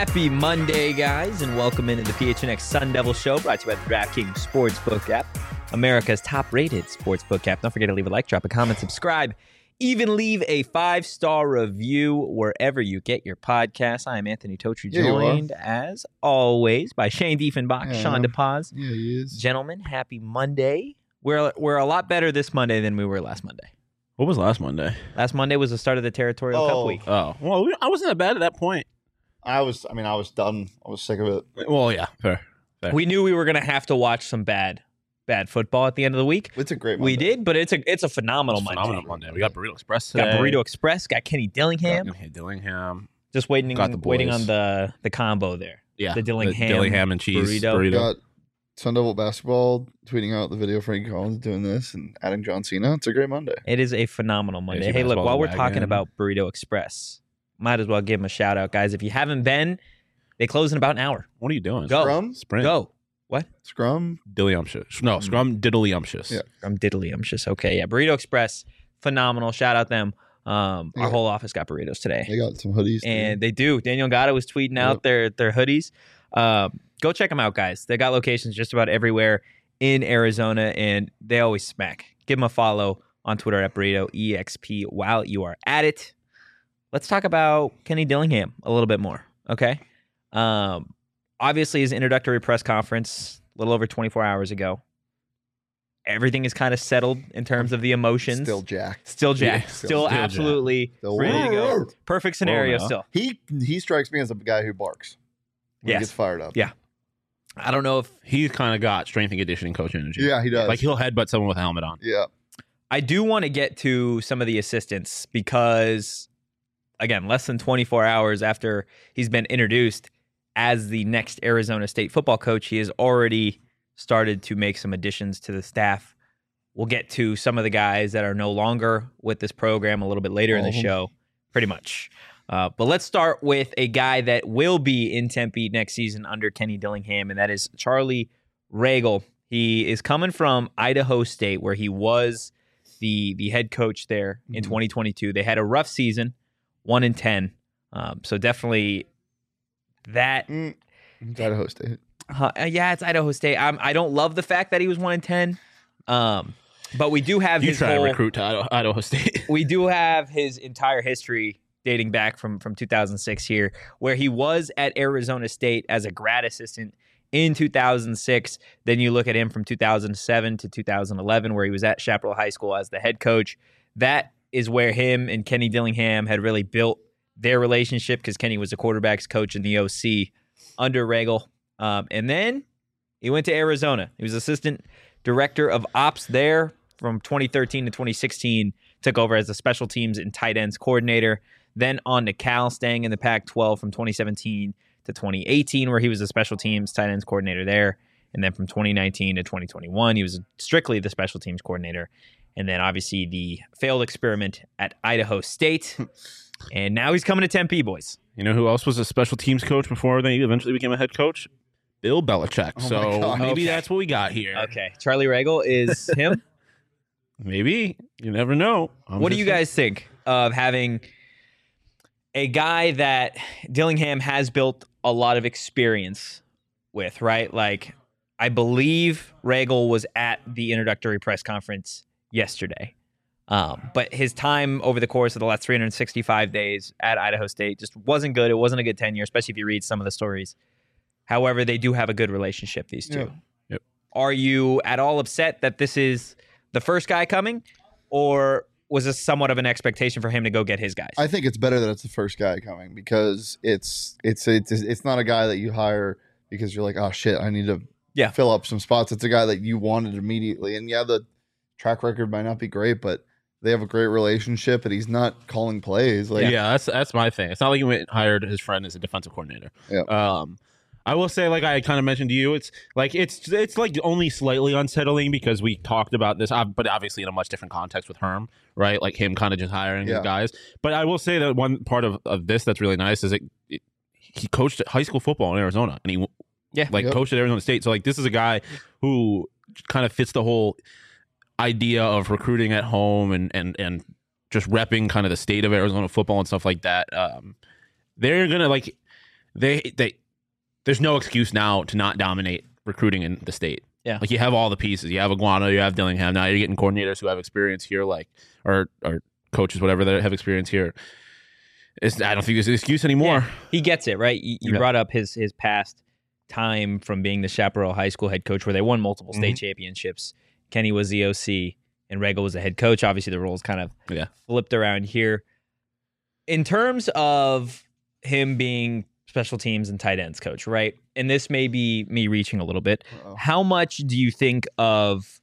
Happy Monday, guys, and welcome into the PHNX Sun Devil Show, brought to you by the DraftKings Sportsbook app, America's top-rated sportsbook app. Don't forget to leave a like, drop a comment, subscribe, even leave a 5-star review wherever you get your podcasts. I am Anthony Totri, joined, as always, by Shane Diefenbach, Sean DePaz. Yeah, he is. Gentlemen, happy Monday. We're a lot better this Monday than we were last Monday. What was last Monday? Last Monday was the start of the Territorial Cup week. Oh, well, I wasn't that bad at that point. I was done. I was sick of it. Well, yeah, fair. We knew we were going to have to watch some bad football at the end of the week. It's a great Monday. We did, but it's a phenomenal Monday. Phenomenal Monday. We got Burrito Express today. Got Burrito Express, got Kenny Dillingham. Dillingham. Just waiting Got the boys. waiting on the combo there. Yeah. The Dillingham, Dillingham and cheese burrito. Got Sun Devil Basketball tweeting out the video of Frankie Collins doing this and adding John Cena. It's a great Monday. It is a phenomenal Monday. Fantasy Hey, look, basketball while we're wagon. talking about Burrito Express, might as well give them a shout out, guys. If you haven't been, they close in about an hour. What are you doing? Go. Scrum? Sprint. Go. What? Scrum? Dilliumptious. No, Scrum Diddlyumptious. Yeah. I'm Diddlyumptious. Okay, yeah. Burrito Express, phenomenal. Shout out them. Our Yeah. whole office got burritos today. They got some hoodies. And they do. Daniel Gatta was tweeting out their hoodies. Go check them out, guys. They got locations just about everywhere in Arizona, and they always smack. Give them a follow on Twitter at BurritoEXP while you are at it. Let's talk about Kenny Dillingham a little bit more, okay? Obviously, his introductory press conference a little over 24 hours ago. Everything is kind of settled in terms of the emotions. Still jacked. Still jacked. Yeah, still still absolutely Still ready to go. jacked. Perfect scenario Whoa, still. He strikes me as a guy who barks. When Yes. he gets fired up. Yeah. I don't know if He's kind of got strength and conditioning coach energy. Yeah, he does. Like he'll headbutt someone with a helmet on. Yeah. I do want to get to some of the assistants because, again, less than 24 hours after he's been introduced as the next Arizona State football coach, he has already started to make some additions to the staff. We'll get to some of the guys that are no longer with this program a little bit later in the show, pretty much. But let's start with a guy that will be in Tempe next season under Kenny Dillingham, and that is Charlie Ragle. He is coming from Idaho State, where he was the head coach there in 2022. They had a rough season, 1-10. So definitely that. It's Idaho State. Yeah, it's Idaho State. I don't love the fact that he was 1-10. But we do have You his try whole, to recruit to Idaho State. we do have his entire history dating back from 2006 here, where he was at Arizona State as a grad assistant in 2006. Then you look at him from 2007 to 2011, where he was at Chaparral High School as the head coach. That is where him and Kenny Dillingham had really built their relationship, because Kenny was the quarterback's coach in the OC under Ragle. And then he went to Arizona. He was assistant director of ops there from 2013 to 2016, took over as the special teams and tight ends coordinator. Then on to Cal, staying in the Pac-12 from 2017 to 2018, where he was the special teams tight ends coordinator there. And then from 2019 to 2021, he was strictly the special teams coordinator. And then obviously the failed experiment at Idaho State. And now he's coming to Tempe, boys. You know who else was a special teams coach before they eventually became a head coach? Bill Belichick. Oh my So God. maybe Okay. that's what we got here. Okay, Charlie Ragle is him. Maybe. You never know. What do you guys think of having a guy that Dillingham has built a lot of experience with, right? Like, I believe Ragle was at the introductory press conference yesterday. But his time over the course of the last 365 days at Idaho State just wasn't good. It wasn't a good tenure, especially if you read some of the stories. However, they do have a good relationship, these two. Yeah. Yep. Are you at all upset that this is the first guy coming, or was this somewhat of an expectation for him to go get his guys? I think it's better that it's the first guy coming, because it's not a guy that you hire because you're like, oh shit, I need to fill up some spots. It's a guy that you wanted immediately. And yeah, the track record might not be great, but they have a great relationship, and he's not calling plays. Like, Yeah, that's my thing. It's not like he went and hired his friend as a defensive coordinator. Yeah. I will say, like I kind of mentioned to you, it's like only slightly unsettling because we talked about this, but obviously in a much different context with Herm, right? Like him kind of just hiring his guys. But I will say that one part of this that's really nice is he coached high school football in Arizona, and he coached at Arizona State. So like this is a guy who kind of fits the whole idea of recruiting at home and just repping kind of the state of Arizona football and stuff like that. They're gonna there's no excuse now to not dominate recruiting in the state. Yeah. Like you have all the pieces. You have Iguana, you have Dillingham. Now you're getting coordinators who have experience here, like or coaches, whatever, that have experience here. I don't think there's an excuse anymore. Yeah. He gets it, right? You brought up his past time from being the Chaparral High School head coach where they won multiple state championships. Kenny was the OC and Regal was the head coach. Obviously, the roles kind of flipped around here. In terms of him being special teams and tight ends coach, right? And this may be me reaching a little bit. How much do you think of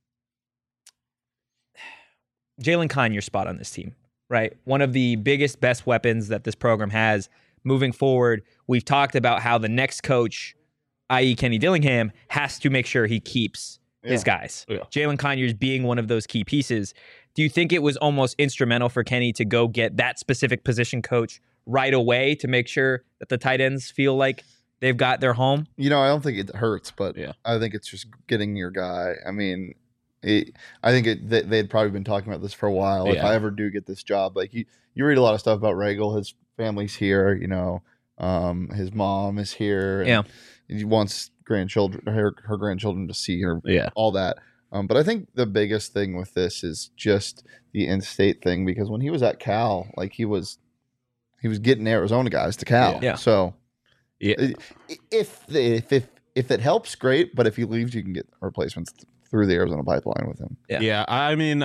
Jalen Conyers' spot on this team, right? One of the biggest, best weapons that this program has moving forward. We've talked about how the next coach, i.e. Kenny Dillingham, has to make sure he keeps his guys. Yeah. Jalen Conyers being one of those key pieces. Do you think it was almost instrumental for Kenny to go get that specific position coach right away to make sure that the tight ends feel like they've got their home? I don't think it hurts, but I think it's just getting your guy. I mean, I think they'd probably been talking about this for a while. If I ever do get this job, like you read a lot of stuff about Regal. His family's here, his mom is here. And he wants her grandchildren to see her. All that. But I think the biggest thing with this is just the in-state thing, because when he was at Cal, like he was getting Arizona guys to Cal. Yeah. So if it helps, great. But if he leaves, you can get replacements through the Arizona pipeline with him. Yeah. I mean,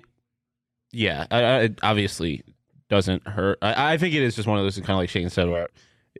it obviously doesn't hurt. I think it is just one of those, kind of like Shane said, where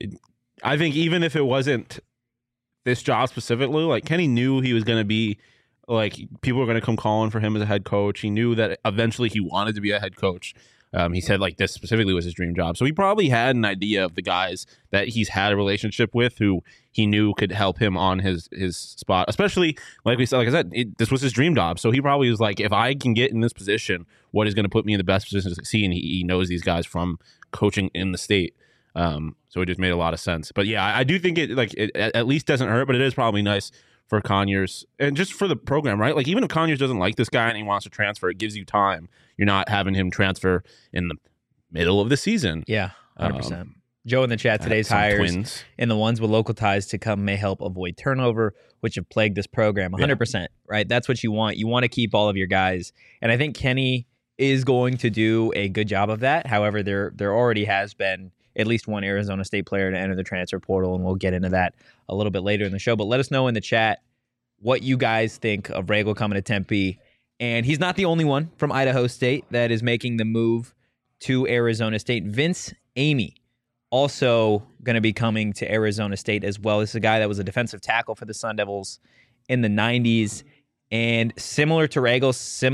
I think even if it wasn't this job specifically, like Kenny knew he was going to be, like, people were going to come calling for him as a head coach. He knew that eventually he wanted to be a head coach. He said, like, this specifically was his dream job. So he probably had an idea of the guys that he's had a relationship with who he knew could help him on his spot. Especially, like I said, this was his dream job. So he probably was like, if I can get in this position, what is going to put me in the best position to succeed? And he knows these guys from coaching in the state. So it just made a lot of sense. But yeah, I do think it at least doesn't hurt, but it is probably nice for Conyers and just for the program, right? Like, even if Conyers doesn't like this guy and he wants to transfer, it gives you time. You're not having him transfer in the middle of the season. Yeah, 100%. Joe in the chat, today's hires and the ones with local ties to come may help avoid turnover, which have plagued this program. 100%, right? That's what you want. You want to keep all of your guys. And I think Kenny is going to do a good job of that. However, there already has been at least one Arizona State player to enter the transfer portal, and we'll get into that a little bit later in the show. But let us know in the chat what you guys think of Regal coming to Tempe. And he's not the only one from Idaho State that is making the move to Arizona State. Vince Amy also going to be coming to Arizona State as well. This is a guy that was a defensive tackle for the Sun Devils in the 90s. And similar to Regal,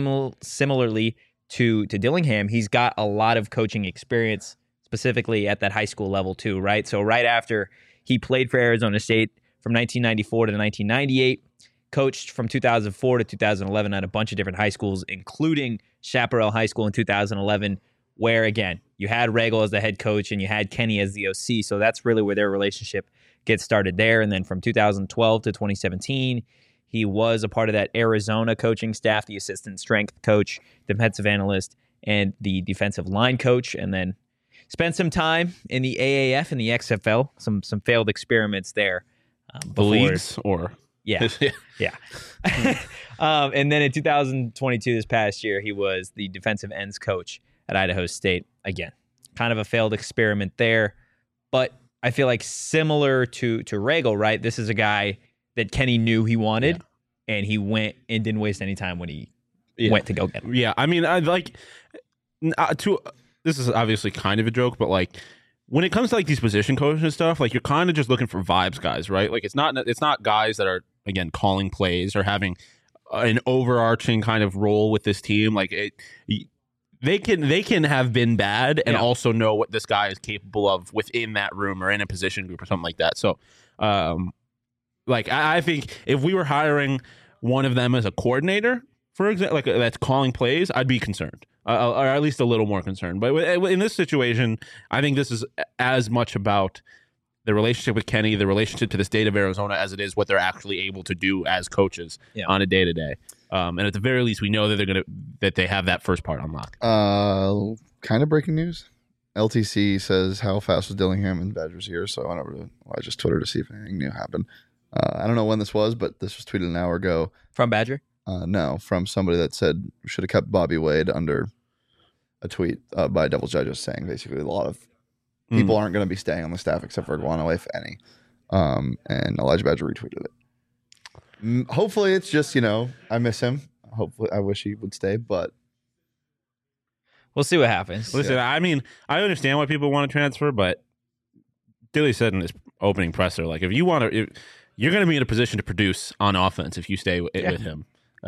similarly to Dillingham, he's got a lot of coaching experience, specifically at that high school level too, right? So right after he played for Arizona State from 1994 to 1998, coached from 2004 to 2011 at a bunch of different high schools, including Chaparral High School in 2011, where, again, you had Regal as the head coach and you had Kenny as the OC. So that's really where their relationship gets started there. And then from 2012 to 2017, he was a part of that Arizona coaching staff, the assistant strength coach, defensive analyst, and the defensive line coach. And then spent some time in the AAF and the XFL, some failed experiments there. The leagues, or... Yeah. And then in 2022, this past year, he was the defensive ends coach at Idaho State. Again, kind of a failed experiment there. But I feel like similar to Regal, right? This is a guy that Kenny knew he wanted, and he went and didn't waste any time when he went to go get him. Yeah, I mean, this is obviously kind of a joke, but like, when it comes to like these position coaches and stuff, like, you're kind of just looking for vibes guys, right? Like, it's not guys that are, again, calling plays or having an overarching kind of role with this team. Like, they can have been bad and also know what this guy is capable of within that room or in a position group or something like that. So, I think if we were hiring one of them as a coordinator, for example, like that's calling plays, I'd be concerned. Or at least a little more concerned. But in this situation, I think this is as much about the relationship with Kenny, the relationship to the state of Arizona, as it is what they're actually able to do as coaches on a day-to-day. And at the very least, we know that they have that first part unlocked. Kind of breaking news. LTC says, how fast was Dillingham in Badgers here? So I went over to Elijah's Twitter to see if anything new happened. I don't know when this was, but this was tweeted an hour ago. From Badger? No, from somebody that said we should have kept Bobby Wade under a tweet by Devil's Digest saying basically a lot of people aren't going to be staying on the staff except for Iguano, if any. And Elijah Badger retweeted it. Hopefully it's just, I miss him. Hopefully I wish he would stay, but we'll see what happens. Listen, I mean, I understand why people want to transfer, but Dilly said in his opening presser, like, if you want to, you're going to be in a position to produce on offense if you stay with him.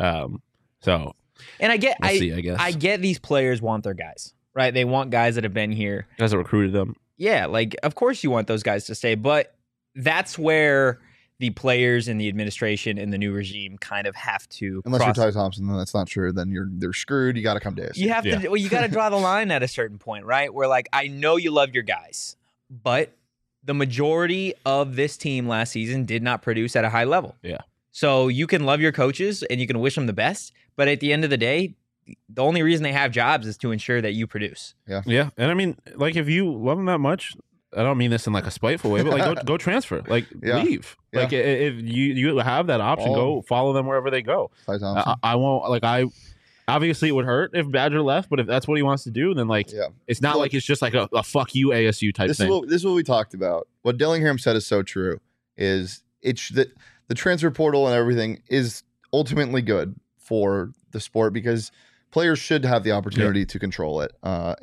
So, and I get, we'll see, I guess. I get these players want their guys, right? They want guys that have been here, guys that recruited them. Yeah, like, of course you want those guys to stay, but that's where the players and the administration and the new regime kind of have to. Unless you're Ty Thompson, then that's not true. Then they're screwed. You got to come to ASU. You have to. Well, you got to draw the line at a certain point, right? Where, like, I know you love your guys, but the majority of this team last season did not produce at a high level. Yeah. So you can love your coaches and you can wish them the best, but at the end of the day, the only reason they have jobs is to ensure that you produce. Yeah. Yeah. And I mean, like, if you love them that much, I don't mean this in like a spiteful way, but like go transfer, like leave. Yeah. Like if you have that option, go follow them wherever they go. I won't, like, obviously it would hurt if Badger left, but if that's what he wants to do, then like it's not like it's just like a fuck you ASU type thing. This is what we talked about. What Dillingham said is so true. Is it's that the transfer portal and everything is ultimately good for the sport because players should have the opportunity to control it.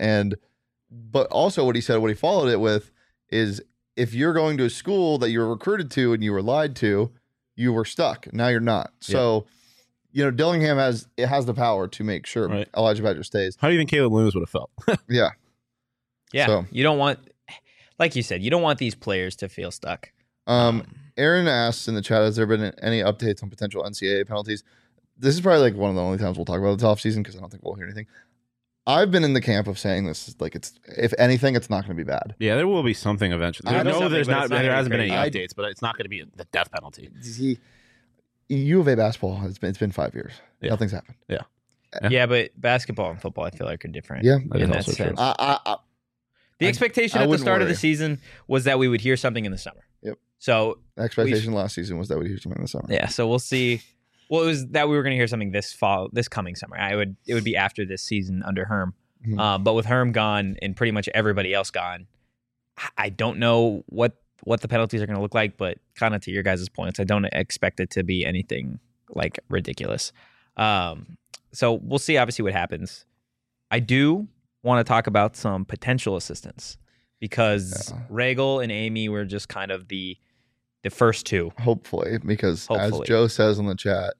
But also what he said, what he followed it with is if you're going to a school that you were recruited to and you were lied to, you were stuck. Now you're not. So, Dillingham has the power to make sure Elijah Badger stays. How do you think Caleb Loomis would have felt? Yeah. So, you don't want, like you said, you don't want these players to feel stuck. Aaron asks in the chat, has there been any updates on potential NCAA penalties? This is probably like one of the only times we'll talk about the offseason because I don't think we'll hear anything. I've been in the camp of saying this, like, it's, if anything, it's not going to be bad. Yeah, there will be something eventually. There hasn't been any updates, but it's not going to be the death penalty. U of A basketball, it's been 5 years. Yeah. Nothing's happened. Yeah, but basketball and football, I feel like, are different. Yeah, in that sense. The expectation at the start of the season was that we would hear something in the summer. Yep. So the expectation last season was that we'd hear something in the summer. Yeah, so we'll see. Well, it was that we were going to hear something this coming summer. It would be after this season under Herm. Mm-hmm. But with Herm gone and pretty much everybody else gone, I don't know what the penalties are going to look like. But kind of to your guys' points, I don't expect it to be anything like ridiculous. So we'll see. Obviously, what happens. I do want to talk about some potential assistants because Regal and Amy were just kind of the first two. Hopefully, because as Joe says in the chat,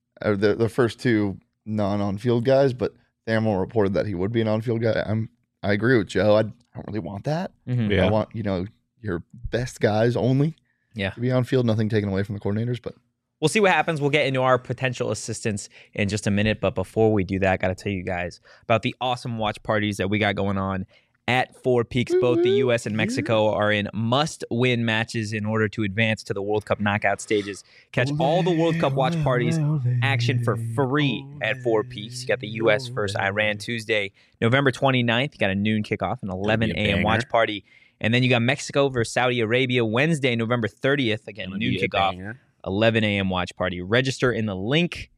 the first two non-on-field guys, but Thamel reported that he would be an on-field guy. I agree with Joe. I don't really want that. Mm-hmm. I want, your best guys only to be on field, nothing taken away from the coordinators, but we'll see what happens. We'll get into our potential assistants in just a minute, but before we do that, I got to tell you guys about the awesome watch parties that we got going on at Four Peaks. Both the U.S. and Mexico are in must-win matches in order to advance to the World Cup knockout stages. Catch all the World Cup watch parties action for free at Four Peaks. You got the U.S. versus Iran Tuesday, November 29th. You got a noon kickoff, an 11 a.m. watch party. And then you got Mexico versus Saudi Arabia Wednesday, November 30th. Again, noon kickoff, 11 a.m. watch party. Register in the link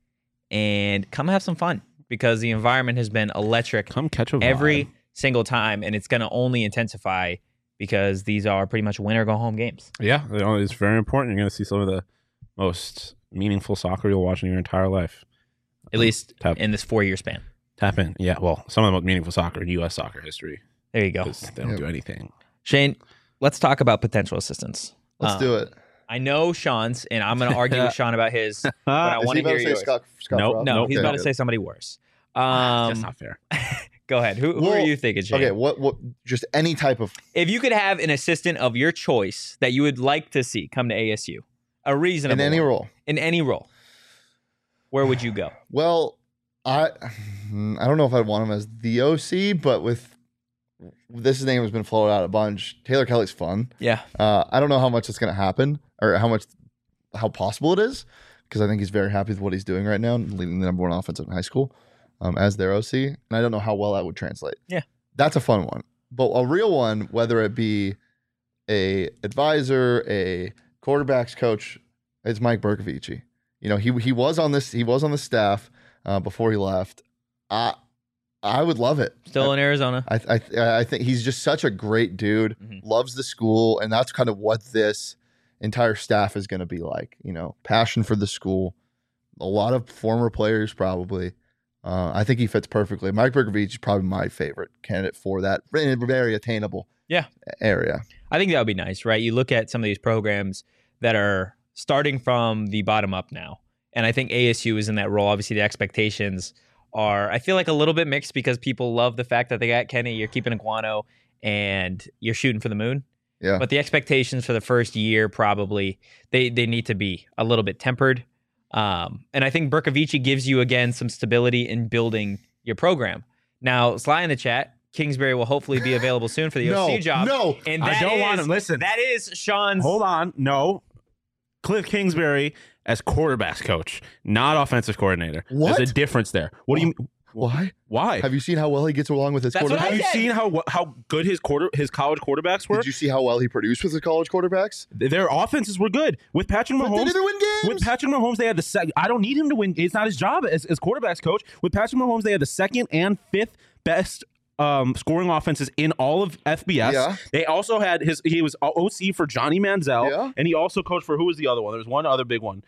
and come have some fun because the environment has been electric. Come catch a vibe. Every single time, and it's going to only intensify because these are pretty much win or go home games. Yeah, it's very important. You're going to see some of the most meaningful soccer you'll watch in your entire life. At least in this 4-year span. Tap in. Yeah, well, some of the most meaningful soccer in U.S. soccer history. There you go. They don't do anything. Shane, let's talk about potential assistants. Let's do it. I know Sean's, and I'm going to argue with Sean about his, but I want to hear yours. Scott No, he's about to say somebody worse. That's not fair. Go ahead. Who are you thinking, Shane? Okay, what? Just any type of. If you could have an assistant of your choice that you would like to see come to ASU, a reasonable in any role, where would you go? Well, I don't know if I'd want him as the OC, but with this name has been floated out a bunch. Taylor Kelly's fun. Yeah. I don't know how much it's going to happen or how possible it is because I think he's very happy with what he's doing right now, leading the #1 offense in high school. As their OC, and I don't know how well that would translate. Yeah. That's a fun one. but a real one, whether it be a advisor, a quarterbacks coach, it's Mike Bercovici. You know, he was on the staff before he left. I would love it. Still in Arizona. I think he's just such a great dude. Loves the school, and that's kind of what this entire staff is going to be like. You know, passion for the school. A lot of former players probably. I think he fits perfectly. Mike Bercovici is probably my favorite candidate for that very attainable area. I think that would be nice, right? You look at some of these programs that are starting from the bottom up now, and I think ASU is in that role. Obviously, the expectations are, I feel like, a little bit mixed because people love the fact that they got Kenny, you're keeping Iguano, and you're shooting for the moon. Yeah. But the expectations for the first year probably, they need to be a little bit tempered. And I think Bercovici gives you, again, some stability in building your program. Now, Sly in the chat, Kingsbury will hopefully be available soon for the OC job. No, and I don't want him. Listen. That is Sean's. Hold on. No. Cliff Kingsbury as quarterbacks coach, not offensive coordinator. What? There's a difference there. What do you mean? Why? Have you seen how well he gets along with his quarterback? Have you seen how good his college quarterbacks were? Did you see how well he produced with his college quarterbacks? Their offenses were good. With Patrick Mahomes, they didn't win games. With Patrick Mahomes, they had the second. I don't need him to win. It's not his job as quarterbacks coach. With Patrick Mahomes, they had the second and fifth best scoring offenses in all of FBS. Yeah. They also had he was OC for Johnny Manziel, and he also coached for, who was the other one? There was one other big one.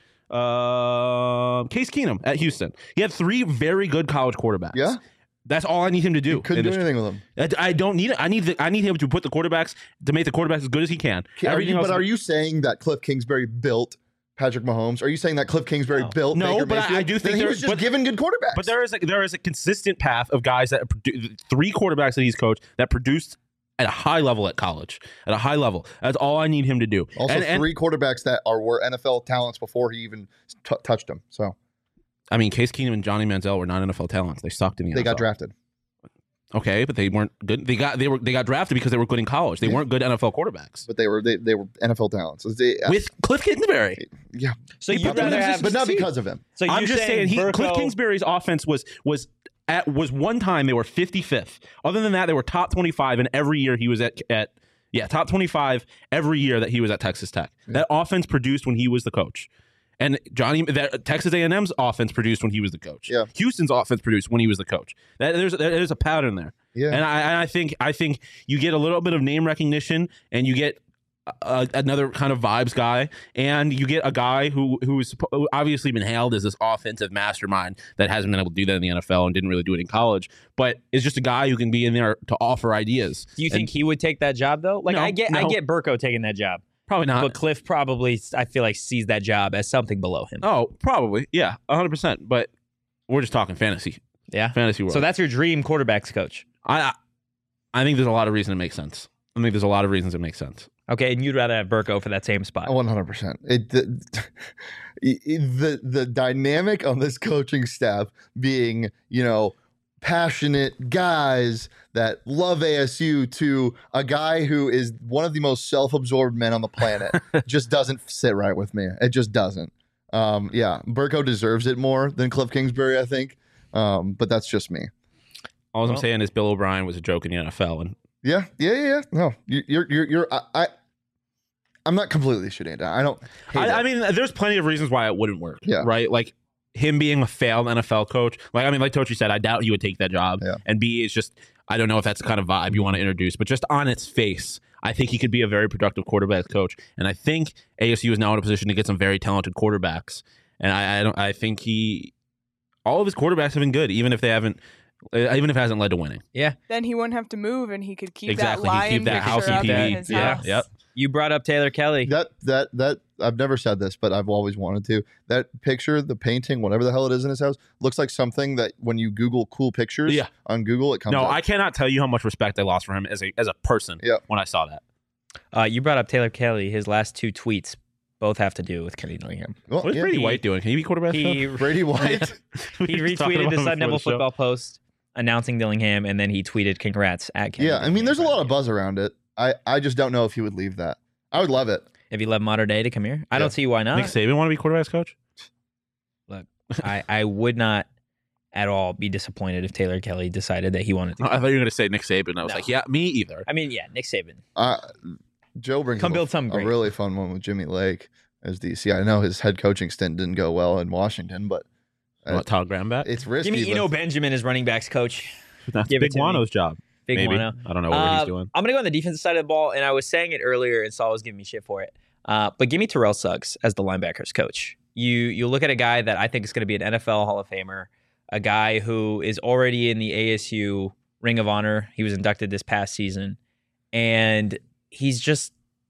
Case Keenum at Houston. He had 3 very good college quarterbacks. Yeah. That's all I need him to do. Couldn't do anything with him. I don't need it. I need him to put the quarterbacks, to make the quarterbacks as good as he can. Are you saying that Cliff Kingsbury built Patrick Mahomes? Are you saying that Cliff Kingsbury built Baker Mayfield? I do think he was just given good quarterbacks. But there is a consistent path of guys that 3 quarterbacks that he's coached that produced at a high level at college. At a high level. That's all I need him to do. Also, 3 quarterbacks that were NFL talents before he even touched them. So, I mean, Case Keenum and Johnny Manziel were not NFL talents. They sucked in the NFL. They got drafted. Okay, but they weren't good. They got drafted because they were good in college. They weren't good NFL quarterbacks. But they were NFL talents. With Cliff Kingsbury. Yeah. So you'd rather have, but not because of him. So I'm just saying Cliff Kingsbury's offense was one time they were 55th. Other than that, they were top 25, and every year he was at top 25 every year that he was at Texas Tech. Yeah. That offense produced when he was the coach. And Texas A&M's offense produced when he was the coach. Yeah. Houston's offense produced when he was the coach. There's a pattern there. Yeah. And I think you get a little bit of name recognition, and you get another kind of vibes guy, and you get a guy who's obviously been hailed as this offensive mastermind that hasn't been able to do that in the NFL and didn't really do it in college, but is just a guy who can be in there to offer ideas. Do you think he would take that job though? Like, no, I get Burko taking that job. Probably not. But Cliff probably, I feel like, sees that job as something below him. Oh, probably. Yeah, 100%. But we're just talking fantasy. Yeah. Fantasy world. So that's your dream quarterbacks coach. I think there's a lot of reason it makes sense. I think there's a lot of reasons it makes sense. Okay, and you'd rather have Burko for that same spot. 100%. The dynamic on this coaching staff being, passionate guys that love ASU to a guy who is one of the most self-absorbed men on the planet just doesn't sit right with me. It just doesn't. Burko deserves it more than Cliff Kingsbury, I think. But that's just me. All I'm saying is Bill O'Brien was a joke in the NFL, and yeah. No, I'm not completely shitting it down. I don't. I mean, there's plenty of reasons why it wouldn't work. Yeah. Right. Like him being a failed NFL coach. Like Tochi said, I doubt he would take that job. Yeah. And B, it's just, I don't know if that's the kind of vibe you want to introduce, but just on its face, I think he could be a very productive quarterback coach. And I think ASU is now in a position to get some very talented quarterbacks. And I think all of his quarterbacks have been good, even if it hasn't led to winning. Yeah. Then he wouldn't have to move, and he could keep exactly. that lion He'd keep that house picture up EPV. in his Yeah. house. Yep. You brought up Taylor Kelly. That I've never said this, but I've always wanted to. That picture, the painting, whatever the hell it is in his house, looks like something that when you Google cool pictures on Google, it comes up. I cannot tell you how much respect I lost for him as a person when I saw that. You brought up Taylor Kelly. His last 2 tweets both have to do with Kenny Dillingham. Well, what is Brady White doing? Can he be quarterback? Brady White. He retweeted the Sun Devil football post announcing Dillingham, and then he tweeted congrats at Kenny. Yeah, I mean, there's a lot of buzz around it. I just don't know if he would leave that. I would love it. If he left Mater Dei to come here, I don't see why not. Nick Saban want to be quarterback's coach? Look, I would not at all be disappointed if Taylor Kelly decided that he wanted to. I thought you were going to say Nick Saban. I was like, yeah, me either. I mean, yeah, Nick Saban. Joe brings Come build something a great. really fun one with Jimmy Lake as DC. I know his head coaching stint didn't go well in Washington, but Todd Graham back? It's risky. Give me Eno Benjamin as running backs coach. That's Give Big it to Wano's job. Big Maybe. Wano. I don't know what he's doing. I'm going to go on the defensive side of the ball, and I was saying it earlier, and Saul was giving me shit for it. But give me Terrell Suggs as the linebackers coach. You look at a guy that I think is going to be an NFL Hall of Famer, a guy who is already in the ASU Ring of Honor. He was inducted this past season, and he's just,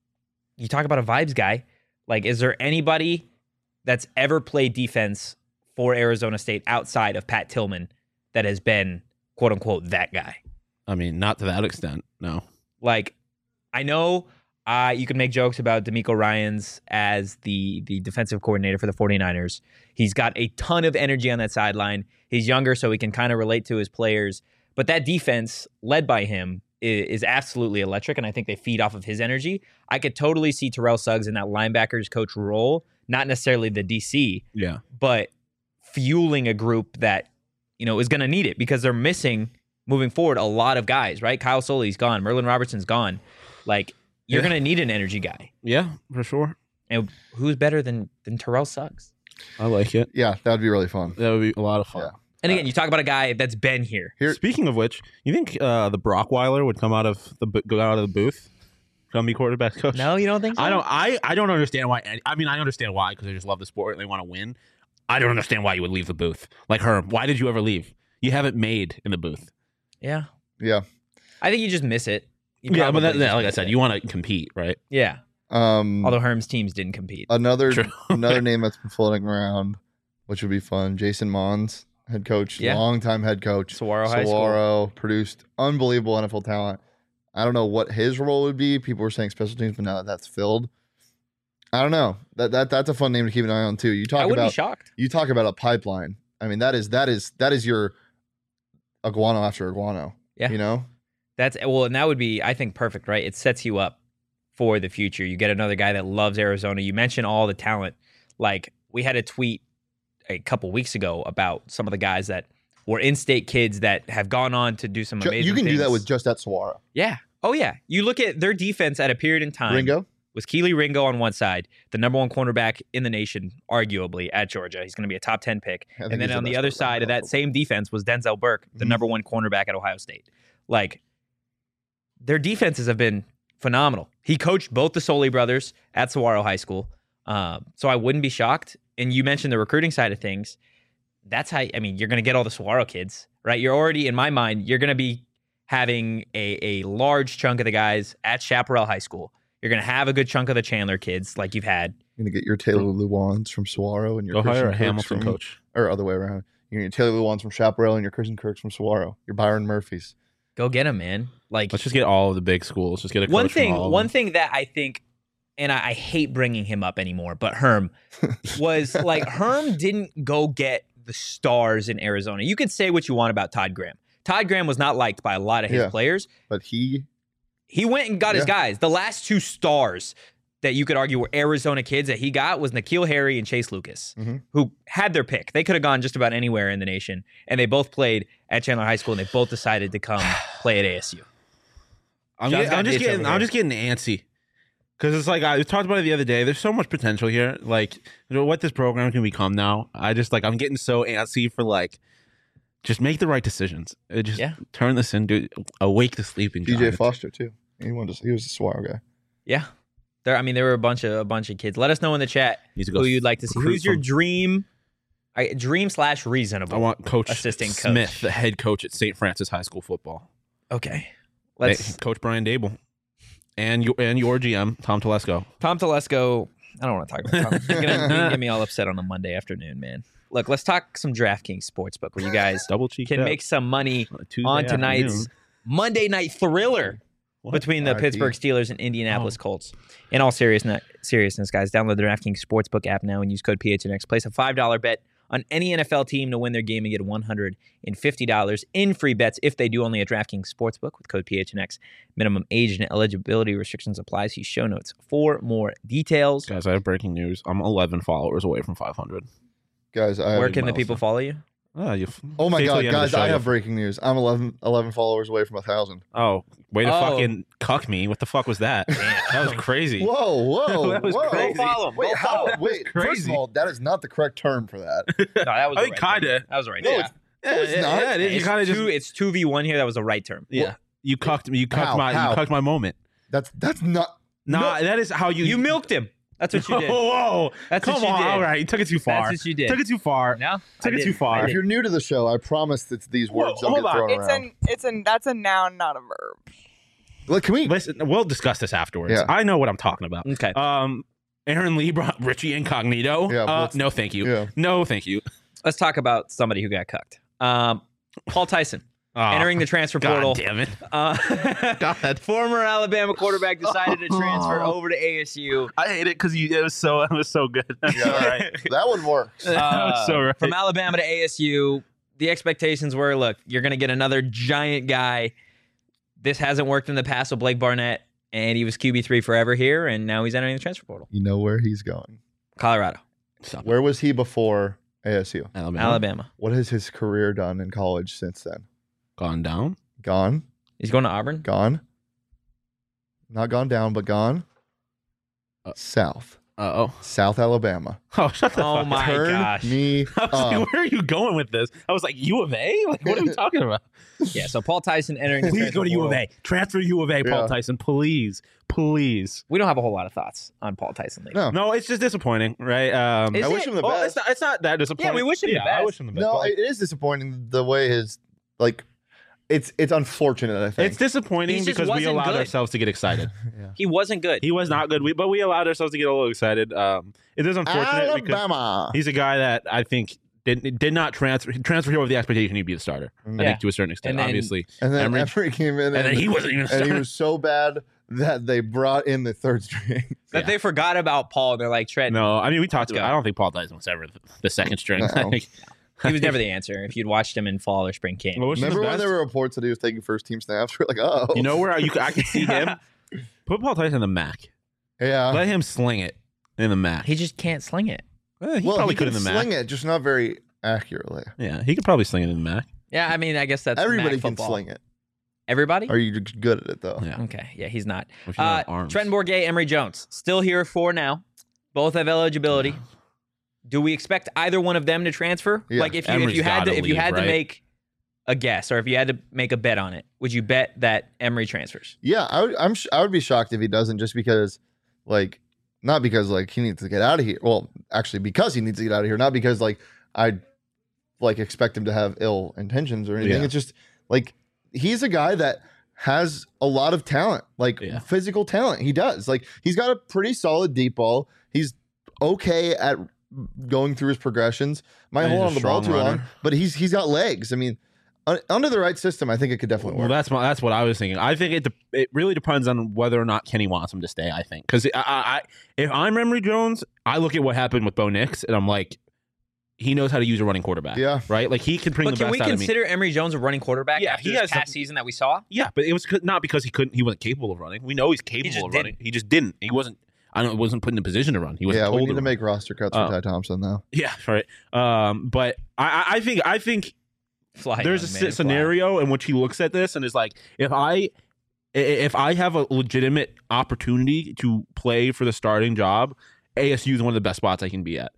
you talk about a vibes guy. Like, is there anybody that's ever played defense for Arizona State outside of Pat Tillman that has been, quote unquote, that guy? I mean, not to that extent, no. Like, I know you can make jokes about DeMeco Ryans as the defensive coordinator for the 49ers. He's got a ton of energy on that sideline. He's younger, so he can kind of relate to his players. But that defense, led by him, is absolutely electric, and I think they feed off of his energy. I could totally see Terrell Suggs in that linebackers coach role, not necessarily the DC, but fueling a group that, is going to need it because they're missing, moving forward, a lot of guys, right? Kyle Soley's gone. Merlin Robertson's gone. Like, you're going to need an energy guy. Yeah, for sure. And who's better than Terrell Suggs? I like it. Yeah, that would be really fun. That would be a lot of fun. Yeah. And again, you talk about a guy that's been here. Speaking of which, you think the Brockweiler would go out of the booth, come be quarterback coach? No, you don't think so? I don't understand why. I mean, I understand why because they just love the sport and they want to win. I don't understand why you would leave the booth. Like Herm, why did you ever leave? You haven't made in the booth. Yeah. Yeah. I think you just miss it. Yeah, but like I said, you want to compete, right? Yeah. Although Herm's teams didn't compete. Another name that's been floating around, which would be fun, Jason Mons, head coach, longtime head coach. Saguaro High School. Produced unbelievable NFL talent. I don't know what his role would be. People were saying special teams, but now that's filled. I don't know. That's a fun name to keep an eye on too. I wouldn't be shocked. You talk about a pipeline. I mean, that is your iguano after iguano. Yeah. And that would be, I think, perfect, right? It sets you up for the future. You get another guy that loves Arizona. You mentioned all the talent. Like, we had a tweet a couple weeks ago about some of the guys that were in-state kids that have gone on to do some amazing things. You can do that with just at Saguaro. Yeah. Oh, yeah. You look at their defense at a period in time. Ringo? Was Keely Ringo on one side, the number one cornerback in the nation, arguably, at Georgia. He's going to be a top 10 pick. And then on the other side of that same defense was Denzel Burke, the number one cornerback at Ohio State. Like, their defenses have been phenomenal. He coached both the Soley brothers at Saguaro High School. So I wouldn't be shocked. And you mentioned the recruiting side of things. That's how, you're going to get all the Saguaro kids, right? You're already, in my mind, you're going to be having a large chunk of the guys at Chaparral High School. You're going to have a good chunk of the Chandler kids like you've had. You're going to get your Taylor Lewans from Saguaro and your Christian Kirks Hamilton coach. Or other way around. You're going to get Taylor Lewans from Chaparral and your Christian Kirks from Saguaro. Your Byron Murphys. Go get them, man. Like, let's just get all of the big schools. Just get a coach from all of them. One thing that I think, and I hate bringing him up anymore, but Herm was like, Herm didn't go get the stars in Arizona. You could say what you want about Todd Graham. Todd Graham was not liked by a lot of his players. But he went and got his guys. The last two stars that you could argue were Arizona kids that he got was N'Keal Harry and Chase Lucas, who had their pick. They could have gone just about anywhere in the nation, and they both played at Chandler High School, and they both decided to come play at ASU. I'm just getting antsy because it's like I talked about it the other day. There's so much potential here, like what this program can become now. I'm getting so antsy for just make the right decisions. Just turn this into awake the sleeping DJ giant. Foster too. He was a Saguaro guy. Yeah. There were a bunch of kids. Let us know in the chat who you'd like to see. Who's your dream / reasonable? I want Coach assistant Smith, coach. the head coach at St. Francis High School football. Okay. Coach Brian Dable. And your GM, Tom Telesco. Tom Telesco, I don't want to talk about Tom. He's going to get me all upset on a Monday afternoon, man. Look, let's talk some DraftKings Sportsbook where you guys can make some money on tonight's Monday Night Thriller between the Pittsburgh Steelers and Indianapolis Colts. In all seriousness, guys, download the DraftKings Sportsbook app now and use code PHNX. Place a $5 bet on any NFL team to win their game and get $150 in free bets if they do, only at DraftKings Sportsbook with code PHNX. Minimum age and eligibility restrictions apply. See show notes for more details. Guys, I have breaking news. I'm 11 followers away from 500. Guys, where can the people follow you? Oh my God, guys! I have breaking news. I'm 11 followers away from 1,000. Oh, way to fucking cuck me! What the fuck was that? That was crazy. Whoa! That was crazy. Wait, how? Wait, first of all, that is not the correct term for that. No, that was. I think kinda. That was the right. No, term. it's not. Yeah, it is. You kind of just. It's 2v1 here. That was the right term. Yeah, you cucked me. You cucked my moment. That's not. Nah, that is how You milked him. That's what you did. Whoa! That's Come what you on! did. All right, you took it too far. That's what you did. Took it too far. No, took it too far. If you're new to the show, I promise that these words don't hold get thrown around. That's a noun, not a verb. Look, can we listen? We'll discuss this afterwards. Yeah. I know what I'm talking about. Okay. Aaron Lee brought Richie Incognito. Yeah, no, thank you. Yeah. No, thank you. Let's talk about somebody who got cucked. Paul Tyson. Entering the transfer God portal. damn it. God. Former Alabama quarterback decided to transfer over to ASU. I hate it because it was so good. Yeah, right. That one works. That was so right. From Alabama to ASU, the expectations were, look, you're going to get another giant guy. This hasn't worked in the past with Blake Barnett, and he was QB3 forever here, and now he's entering the transfer portal. You know where he's going. Colorado. Where was he before ASU? Alabama. What has his career done in college since then? Gone down? Gone. He's going to Auburn? Gone. Not gone down, but gone. South. South Alabama. Oh, shut the fuck up. My gosh. Me I was like, where are you going with this? I was like, U of A? Like, what are we talking about? Yeah, so Paul Tyson entering the Please transfer go to U of portal. A. Transfer U of A, Paul Yeah. Tyson. Please. Please. We don't have a whole lot of thoughts on Paul Tyson lately. No. No, it's just disappointing, right? Is I wish it? him the Well, best. it's not that disappointing. Yeah, we wish him the I best. wish him the best. No, but, it is disappointing the way his it's unfortunate, I think. it's disappointing He just because we wasn't allowed good. ourselves to get excited. He wasn't good. He was not good, but we allowed ourselves to get a little excited. It is unfortunate because Alabama. he's a guy that I think did not transfer here with the expectation he'd be the starter. I think to a certain extent, And then- obviously. And then Emory- Emory came in And then he wasn't even and starting. he was so bad that they brought in the third string. That they forgot about Paul. They're like, Trent, No, I mean we talked Let's about. go. I don't think Paul Tyson was ever the second string. No. I think he was never the answer if you'd watched him in fall or spring camp. Well, which is the Remember when best? there were reports that he was taking first team snaps? We're like, oh. You know where I could see him? Put Paul Tyson in the MAC. Yeah. Let him sling it in the MAC. He just can't sling it. He well, probably he could can in the sling MAC. it, just not very accurately. Yeah, he could probably sling it in the MAC. Yeah, I mean, I guess that's Everybody MAC can football. sling it. Everybody? Are you just good at it, though? Yeah. Okay, yeah, he's not. If you don't have arms. Trenton Bourguet, Emory Jones, still here for now. Both have eligibility. Do we expect either one of them to transfer? Yeah. Like if Emery's you had gotta to leave, right? make a guess, or if you had to make a bet on it, would you bet that Emory transfers? Yeah, I would be shocked if he doesn't, just because, not because he needs to get out of here. Well, actually, because he needs to get out of here, not because I expect him to have ill intentions or anything. Yeah. It's just he's a guy that has a lot of talent, physical talent. He does. He's got a pretty solid deep ball. He's okay at going through his progressions. Might And he's hold a on the ball strong too long, runner. but he's got legs. I mean, under the right system, I think it could definitely Well, work. that's what I was thinking. I think it really depends on whether or not Kenny wants him to stay. I think because if I'm Emory Jones, I look at what happened with Bo Nix and I'm like, he knows how to use a running quarterback. Yeah. right. Like he can bring But the can best we out of me. consider Emory Jones a running quarterback Yeah, after he this has past season that we saw? Yeah, but it was not because he wasn't capable of running. We know he's capable just of running. He just didn't. He wasn't. Wasn't put in a position to run. He was Yeah, told we need to run. make roster cuts for Ty Thompson, though. Yeah, right. But I think Fly, there's young a man, fly. scenario in which he looks at this and is like, if I have a legitimate opportunity to play for the starting job, ASU is one of the best spots I can be at.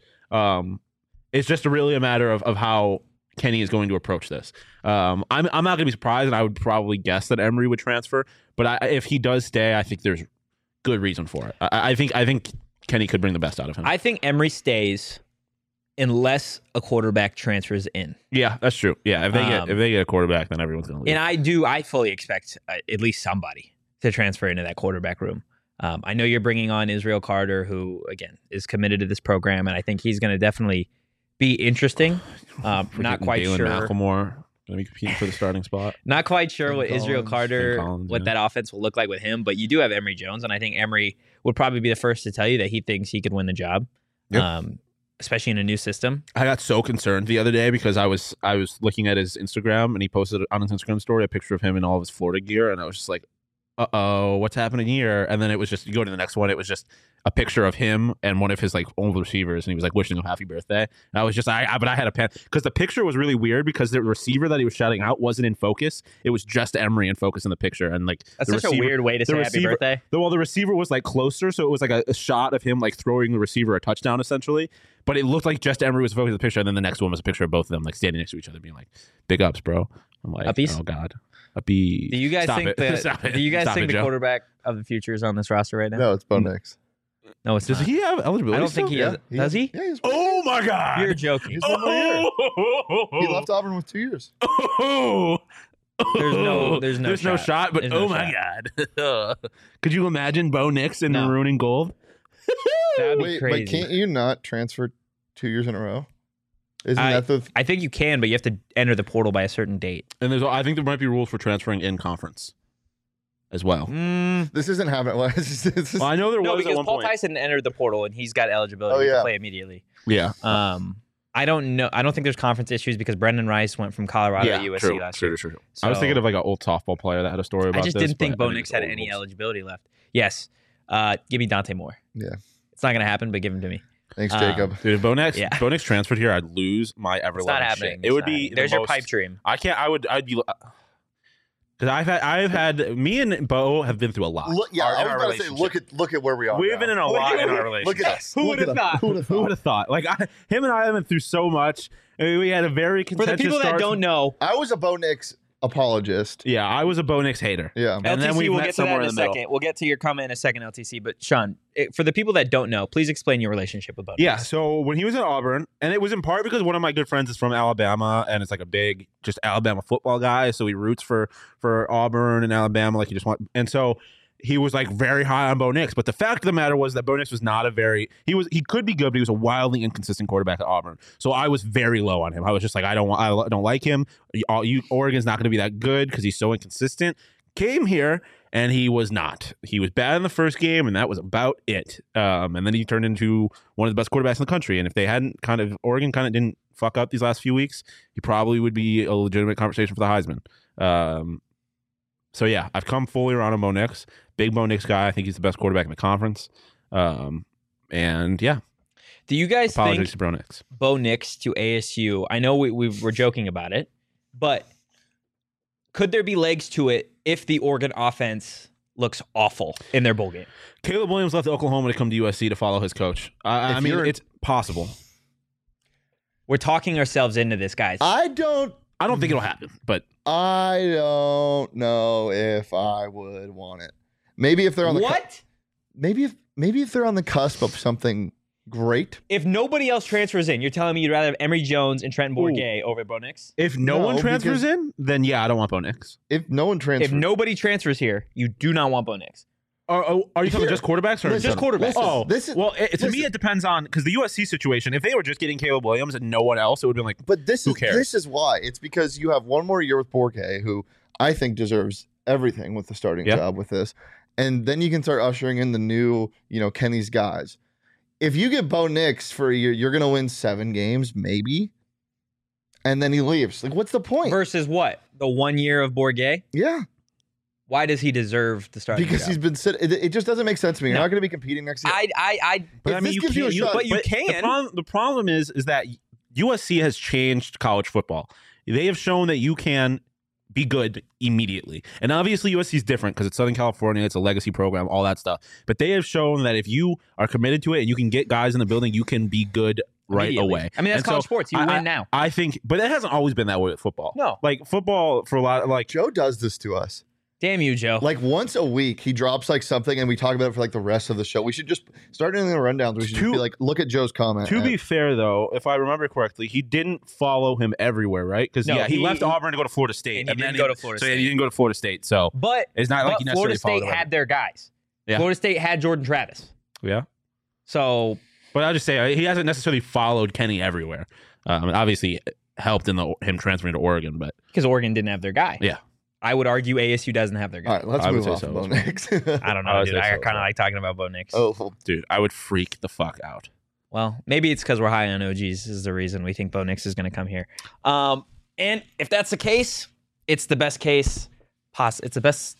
It's just really a matter of how Kenny is going to approach this. I'm not going to be surprised, and I would probably guess that Emory would transfer. But if he does stay, I think there's good reason for it. I think Kenny could bring the best out of him. I think Emory stays unless a quarterback transfers in. Yeah, that's true. Yeah, if they get a quarterback, then everyone's going to leave. And I fully expect at least somebody to transfer into that quarterback room. I know you're bringing on Israel Carter, who, again, is committed to this program, and I think he's going to definitely be interesting. Not quite Dalen sure. McLemore going to be competing for the starting spot. Not quite sure what Israel Collins. Carter, Ben Collins, what yeah. that offense will look like with him, but you do have Emory Jones, and I think Emory would probably be the first to tell you that he thinks he could win the job, Yep. especially in a new system. I got so concerned the other day because I was looking at his Instagram and he posted on his Instagram story a picture of him in all of his Florida gear, and I was just like, what's happening here? And then it was just, you go to the next one, it was just a picture of him and one of his like old receivers, and he was like wishing him happy birthday. And I was just, but I had a pen because the picture was really weird because the receiver that he was shouting out wasn't in focus. It was just Emery in focus in the picture, and like that's such a weird way to say happy birthday. Well, the receiver was like closer, so it was like a shot of him like throwing the receiver a touchdown essentially. But it looked like just Emery was focused on the picture, and then the next one was a picture of both of them like standing next to each other, being like, "Big ups, bro." I'm like, Uppies? oh god. Do you guys think the quarterback of the future is on this roster right now? No, it's Bo Nix. No, it's Does not. he have eligibility? I don't think he has. Does he? Yeah, oh my god! You're joking. He's 1 more year. He left Auburn with 2 years. There's no shot. But no my god! Could you imagine Bo Nix in maroon and gold? That'd be crazy. But can't you not transfer 2 years in a row? I think you can, but you have to enter the portal by a certain date. And I think there might be rules for transferring in conference as well. This isn't happening. Well, I know there was because at one Paul point. Tyson entered the portal and he's got eligibility to play immediately. Yeah. I don't know. I don't think there's conference issues because Brendan Rice went from Colorado to USC last year. True. So, I was thinking of like an old softball player that had a story about this. I just didn't think Bo Nix had any eligibility left. Yes. Give me Dante Moore. Yeah. It's not going to happen, but give him to me. Thanks, Jacob. Dude, Bo Nix transferred here, I'd lose my ever-loving shit. It's not happening. It would be there's your pipe dream. I'd be because I've had me and Bo have been through a lot. I was about to say, look at where we are. We've been in a lot in our relationship. Look at us. Who would have thought? Who would have thought? Like him and I have been through so much. I mean, we had a very contentious. For the people that don't know, I was a Bo Nix apologist. Yeah, I was a Bo Nix hater. Yeah, and LTC, then we'll get to that in a second. We'll get to your comment in a second, LTC. But Sean, for the people that don't know, please explain your relationship with Bo Nix. Yeah, so when he was at Auburn, and it was in part because one of my good friends is from Alabama, and it's like a big just Alabama football guy, so he roots for Auburn and Alabama, like he just want, and so he was like very high on Bo Nix. But the fact of the matter was that Bo Nix was not he could be good, but he was a wildly inconsistent quarterback at Auburn. So I was very low on him. I was just like, I don't like him. Oregon's not going to be that good because he's so inconsistent. Came here and he was not. He was bad in the first game, and that was about it. And then he turned into one of the best quarterbacks in the country. And if they hadn't Oregon didn't fuck up these last few weeks, he probably would be a legitimate conversation for the Heisman. So yeah, I've come fully around on Bo Nix. Big Bo Nix guy. I think he's the best quarterback in the conference. And yeah. Do you guys think to Bo Nix. Bo Nix to ASU? I know we were joking about it, but could there be legs to it if the Oregon offense looks awful in their bowl game? Caleb Williams left Oklahoma to come to USC to follow his coach. I mean, it's possible. We're talking ourselves into this, guys. I don't think it'll happen, but I don't know if I would want it. Maybe if they're on the maybe if they're on the cusp of something great. If nobody else transfers in, you're telling me you'd rather have Emory Jones and Trenton Bourguet over Bo Nix? If no one transfers in, then yeah, I don't want Bo Nix. If nobody transfers here, you do not want Bo Nix. Are you talking just quarterbacks or just quarterbacks? To me it depends on because the USC situation. If they were just getting Caleb Williams and no one else, it would have been like. But who cares? This is why. It's because you have one more year with Bourguet, who I think deserves everything with the starting job with this, and then you can start ushering in the new, Kenny's guys. If you get Bo Nix for a year, you're going to win 7 games, maybe, and then he leaves. Like, what's the point? Versus what? The 1 year of Bourguet? Yeah. Why does he deserve the starting Because job? he's been sitting. It just doesn't make sense to me. You're not going to be competing next year. You can. The problem is that USC has changed college football. They have shown that you can be good immediately. And obviously USC is different because it's Southern California, it's a legacy program, all that stuff. But they have shown that if you are committed to it and you can get guys in the building, you can be good right away. I mean, that's college sports. You win now. I think, but it hasn't always been that way with football. No. Like football for a lot, like Joe does this to us. Damn you, Joe. Like once a week, he drops like something and we talk about it for like the rest of the show. We should just start doing the rundowns. We should just be like, look at Joe's comment. To be fair, though, if I remember correctly, he didn't follow him everywhere, right? Because he left Auburn to go to Florida State. And he didn't go to Florida State. So he didn't go to Florida State. So but it's not like he necessarily Florida State had their guys. Yeah. Florida State had Jordan Travis. Yeah. So. But I'll just say, he hasn't necessarily followed Kenny everywhere. Obviously, helped in him transferring to Oregon, but because Oregon didn't have their guy. Yeah. I would argue ASU doesn't have their guy. All right, let's move off Bo Nix. I don't know, dude. I kind of like talking about Bo Nix. Oh, dude, I would freak the fuck out. Well, maybe it's because we're high on OGs is the reason we think Bo Nix is going to come here. And if that's the case, it's the best case. It's the best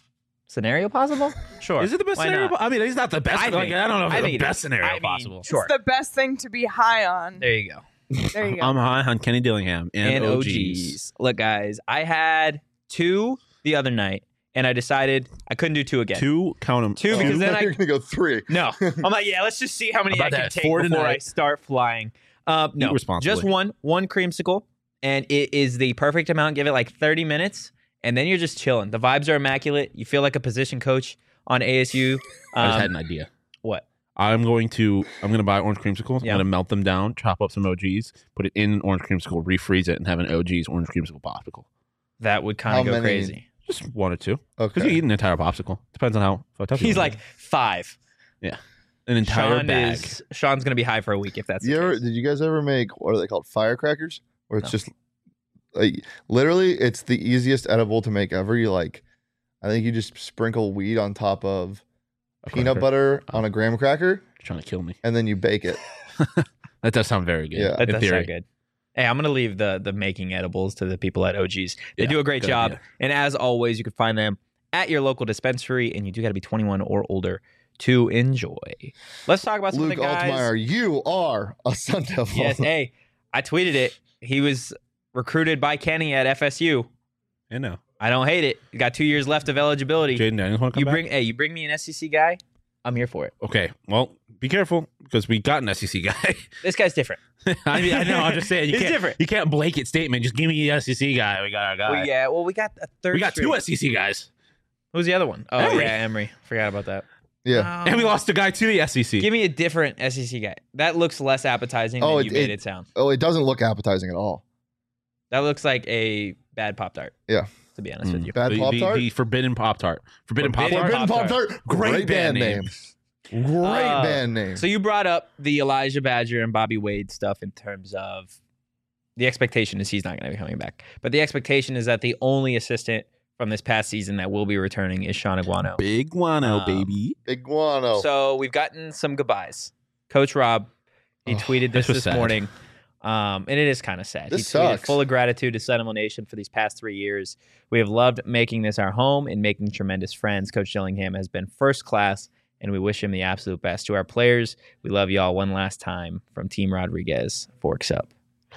scenario possible? Sure. Is it the best scenario? I mean, he's not the best. I don't know if it's the best scenario possible. Sure. It's the best thing to be high on. There you go. There you go. I'm high on Kenny Dillingham and OGs. Look, guys, I had 2 the other night, and I decided I couldn't do 2 again. 2, count them. 2 because then you're gonna go 3. No, I'm like, yeah, let's just see how many I can take before I start flying. No, just one creamsicle, and it is the perfect amount. Give it like 30 minutes, and then you're just chilling. The vibes are immaculate. You feel like a position coach on ASU. I just had an idea. What? I'm going to buy orange creamsicles. Yeah. I'm going to melt them down, chop up some OGs, put it in an orange creamsicle, refreeze it, and have an OG's orange creamsicle popsicle. That would kind of go crazy. Just 1 or 2. Okay. Because you eat an entire popsicle. Depends on how fucked up you He's are. like 5. Yeah. An entire bag. Sean's going to be high for a week if that's the case. Did you guys ever make, what are they called, firecrackers? Where it's just, like, literally, it's the easiest edible to make ever. I think you just sprinkle weed on top of peanut butter on a graham cracker. You're trying to kill me. And then you bake it. That does sound very good. Yeah. That does sound good. Hey, I'm going to leave the making edibles to the people at OGs. They do a great job. Idea. And as always, you can find them at your local dispensary, and you do got to be 21 or older to enjoy. Let's talk about some of the guys. Luke Altmaier, you are a Sun Devil. Yes, hey, I tweeted it. He was recruited by Kenny at FSU. I know. I don't hate it. You got 2 years left of eligibility. Jaden Daniels want to come back? You bring me an SEC guy, I'm here for it. Okay, well, be careful because we got an SEC guy. This guy's different. I mean, I know. I'm just saying, He's different. You can't blanket statement. Just give me the SEC guy. We got our guy. Well, we got a third. We got 2 SEC guys. Who's the other one? Oh, Emory. yeah, Emory. Forgot about that. Yeah. And we lost a guy to the SEC. Give me a different SEC guy. That looks less appetizing than you made it sound. Oh, it doesn't look appetizing at all. That looks like a bad Pop-Tart. Yeah. To be honest with you. Bad Pop-Tart? The Forbidden Pop-Tart. Forbidden Pop-Tart. Great band name. Great band name. So you brought up the Elijah Badger and Bobby Wade stuff in terms of the expectation is he's not going to be coming back. But the expectation is that the only assistant from this past season that will be returning is Sean Aguano. Big Guano, baby. Big Guano. So we've gotten some goodbyes. Coach Rob, he tweeted this morning. And it is kind of sad. This he tweeted, sucks. full of gratitude to Seminole Nation for these past 3 years. We have loved making this our home and making tremendous friends. Coach Dillingham has been first class, and we wish him the absolute best. To our players, we love y'all one last time from Team Rodriguez. Forks up.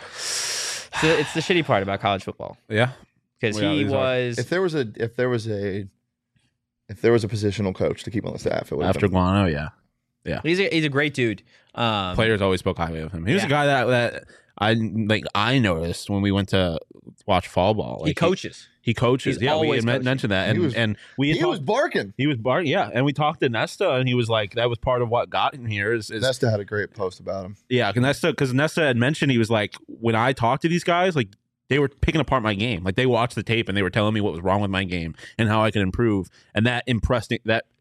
So it's the shitty part about college football. Yeah. Because he was... If there was a positional coach to keep on the staff, it would after Guano, yeah. He's a great dude. Players always spoke highly of him. He was a guy that I noticed when we went to watch fall ball. Like he coaches. He coaches. He's yeah, we always had mentioned that, He was barking. He was barking. Yeah, and we talked to Nesta, and he was like, "That was part of what got him here." Is Nesta had a great post about him. Yeah, because Nesta had mentioned he was like, when I talked to these guys, like they were picking apart my game. Like they watched the tape and they were telling me what was wrong with my game and how I could improve, and that impressed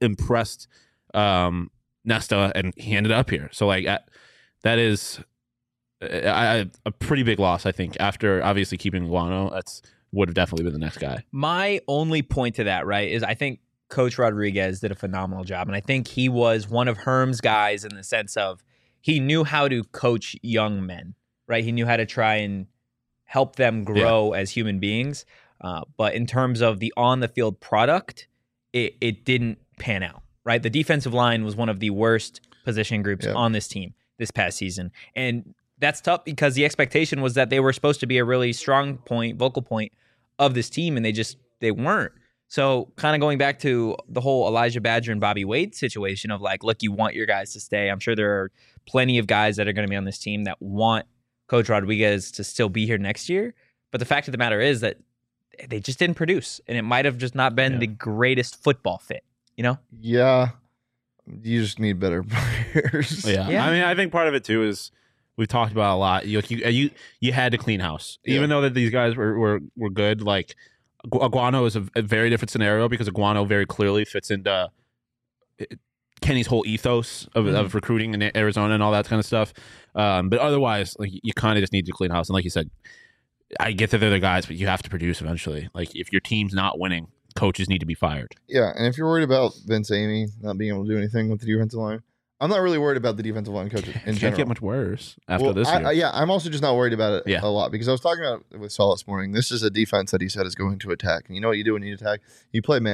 Nesta, and he ended up here. So like that is a pretty big loss, I think. After obviously keeping Guano, that's would have definitely been the next guy. My only point to that, right, is I think Coach Rodriguez did a phenomenal job, and I think he was one of Herm's guys in the sense of he knew how to coach young men, right? He knew how to try and help them grow as human beings. But in terms of the on-the-field product, it didn't pan out, right? The defensive line was one of the worst position groups on this team this past season. And that's tough because the expectation was that they were supposed to be a really strong point, vocal point of this team, and they weren't. So kind of going back to the whole Elijah Badger and Bobby Wade situation of like, look, you want your guys to stay. I'm sure there are plenty of guys that are going to be on this team that want Coach Rodriguez to still be here next year. But the fact of the matter is that they just didn't produce, and it might have just not been the greatest football fit, you know? Yeah. You just need better players. Yeah. I mean, I think part of it too is we've talked about a lot. You had to clean house, even though that these guys were good. Like Aguano is a very different scenario because Aguano very clearly fits into Kenny's whole ethos of recruiting in Arizona and all that kind of stuff. But otherwise, like you kind of just need to clean house. And like you said, I get that they're the guys, but you have to produce eventually. Like if your team's not winning, coaches need to be fired. Yeah, and if you're worried about Vince Amy not being able to do anything with the defensive line, I'm not really worried about the defensive line coaches in general. Can't get much worse after this year. I'm also just not worried about it a lot because I was talking about it with Saul this morning. This is a defense that he said is going to attack. And you know what you do when you attack? You play man,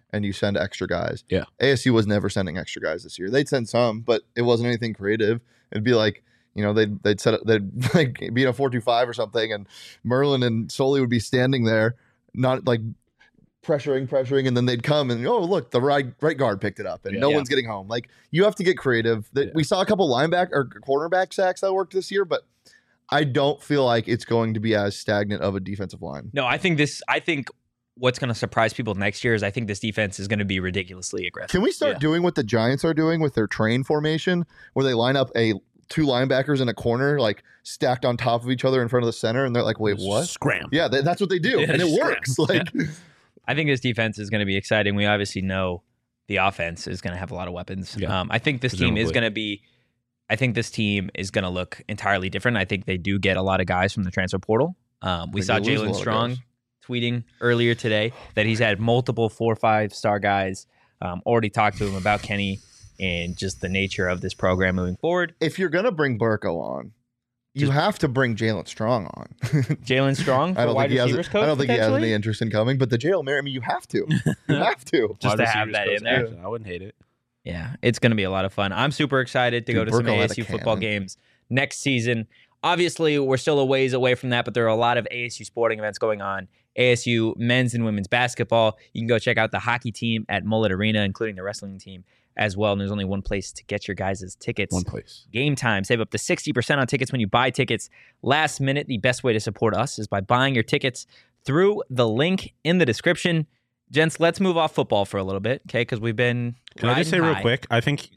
and you send extra guys. Yeah. ASU was never sending extra guys this year. They'd send some, but it wasn't anything creative. It'd be like, they'd set it, they'd like be in a 4-2-5 or something, and Merlin and Sully would be standing there, not like pressuring, and then they'd come and look, the right guard picked it up, and no one's getting home. Like, you have to get creative. We saw a couple linebacker or cornerback sacks that worked this year, but I don't feel like it's going to be as stagnant of a defensive line. No, I think what's going to surprise people next year is I think this defense is going to be ridiculously aggressive. Can we start doing what the Giants are doing with their train formation, where they line up two linebackers in a corner, like stacked on top of each other in front of the center, and they're like, wait, what? Scram. Yeah, that's what they do, and it works. Like, I think this defense is going to be exciting. We obviously know the offense is going to have a lot of weapons. Yeah. I think this team is going to be. I think this team is going to look entirely different. I think they do get a lot of guys from the transfer portal. We saw Jalen Strong tweeting earlier today that he's had multiple 4 or 5-star guys. Already talked to him about Kenny and just the nature of this program moving forward. If you're going to bring Burko on, you have to bring Jalen Strong on. Jalen Strong, I don't think he has any interest in coming, but the Jalen Merritt, you have to. You have to. Just to have that in there. I wouldn't hate it. Yeah, it's going to be a lot of fun. I'm super excited to go to some ASU football games next season. Obviously, we're still a ways away from that, but there are a lot of ASU sporting events going on. ASU men's and women's basketball. You can go check out the hockey team at Mullet Arena, including the wrestling team as well. And there's only one place to get your guys' tickets. One place. Game Time. Save up to 60% on tickets when you buy tickets last minute. The best way to support us is by buying your tickets through the link in the description. Gents, let's move off football for a little bit, okay? Because we've been Can I just say real quick? I think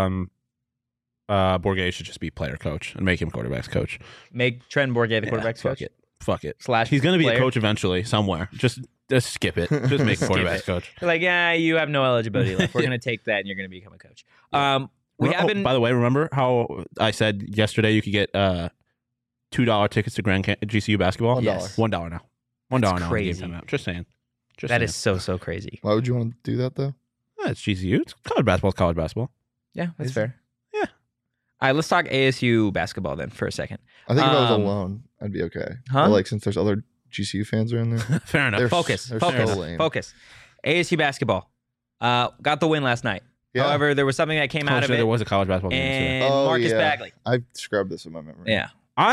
Bourget should just be player coach and make him quarterback's coach. Make Trent Bourget the quarterback's coach? Fuck it. / He's going to be player. A coach eventually somewhere. Just skip it. Just make him quarterback's coach. You're like, you have no eligibility left. We're going to take that and you're going to become a coach. By the way, remember how I said yesterday you could get $2 tickets to GCU basketball? Yes. $1 now. $1 now. Crazy. Just saying. That is so crazy. Why would you want to do that, though? It's GCU. It's college basketball. It's college basketball. Yeah, that's fair. Yeah. All right, let's talk ASU basketball then for a second. I think if I was alone, I'd be okay. Huh? But since there's other GCU fans are in there. Fair enough. Focus. So lame. Focus. ASU basketball got the win last night. Yeah. However, there was something that came out of it. There was a college basketball game. And Marcus Bagley. I scrubbed this in my memory. Yeah.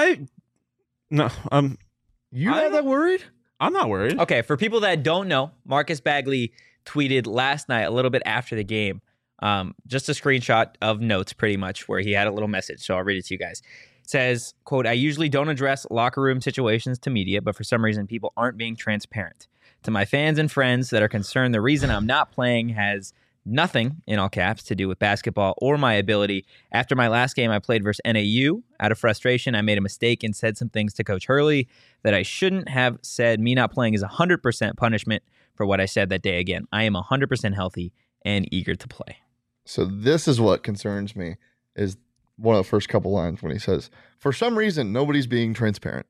You not that worried? I'm not worried. Okay, for people that don't know, Marcus Bagley tweeted last night, a little bit after the game, just a screenshot of notes pretty much where he had a little message. So I'll read it to you guys. It says, quote, "I usually don't address locker room situations to media, but for some reason people aren't being transparent. To my fans and friends that are concerned, the reason I'm not playing has nothing, in all caps, to do with basketball or my ability. After my last game I played versus NAU, out of frustration, I made a mistake and said some things to Coach Hurley that I shouldn't have said. Me not playing is 100% punishment for what I said that day. Again, I am 100% healthy and eager to play." So this is what concerns me, is one of the first couple lines when he says, "For some reason, nobody's being transparent."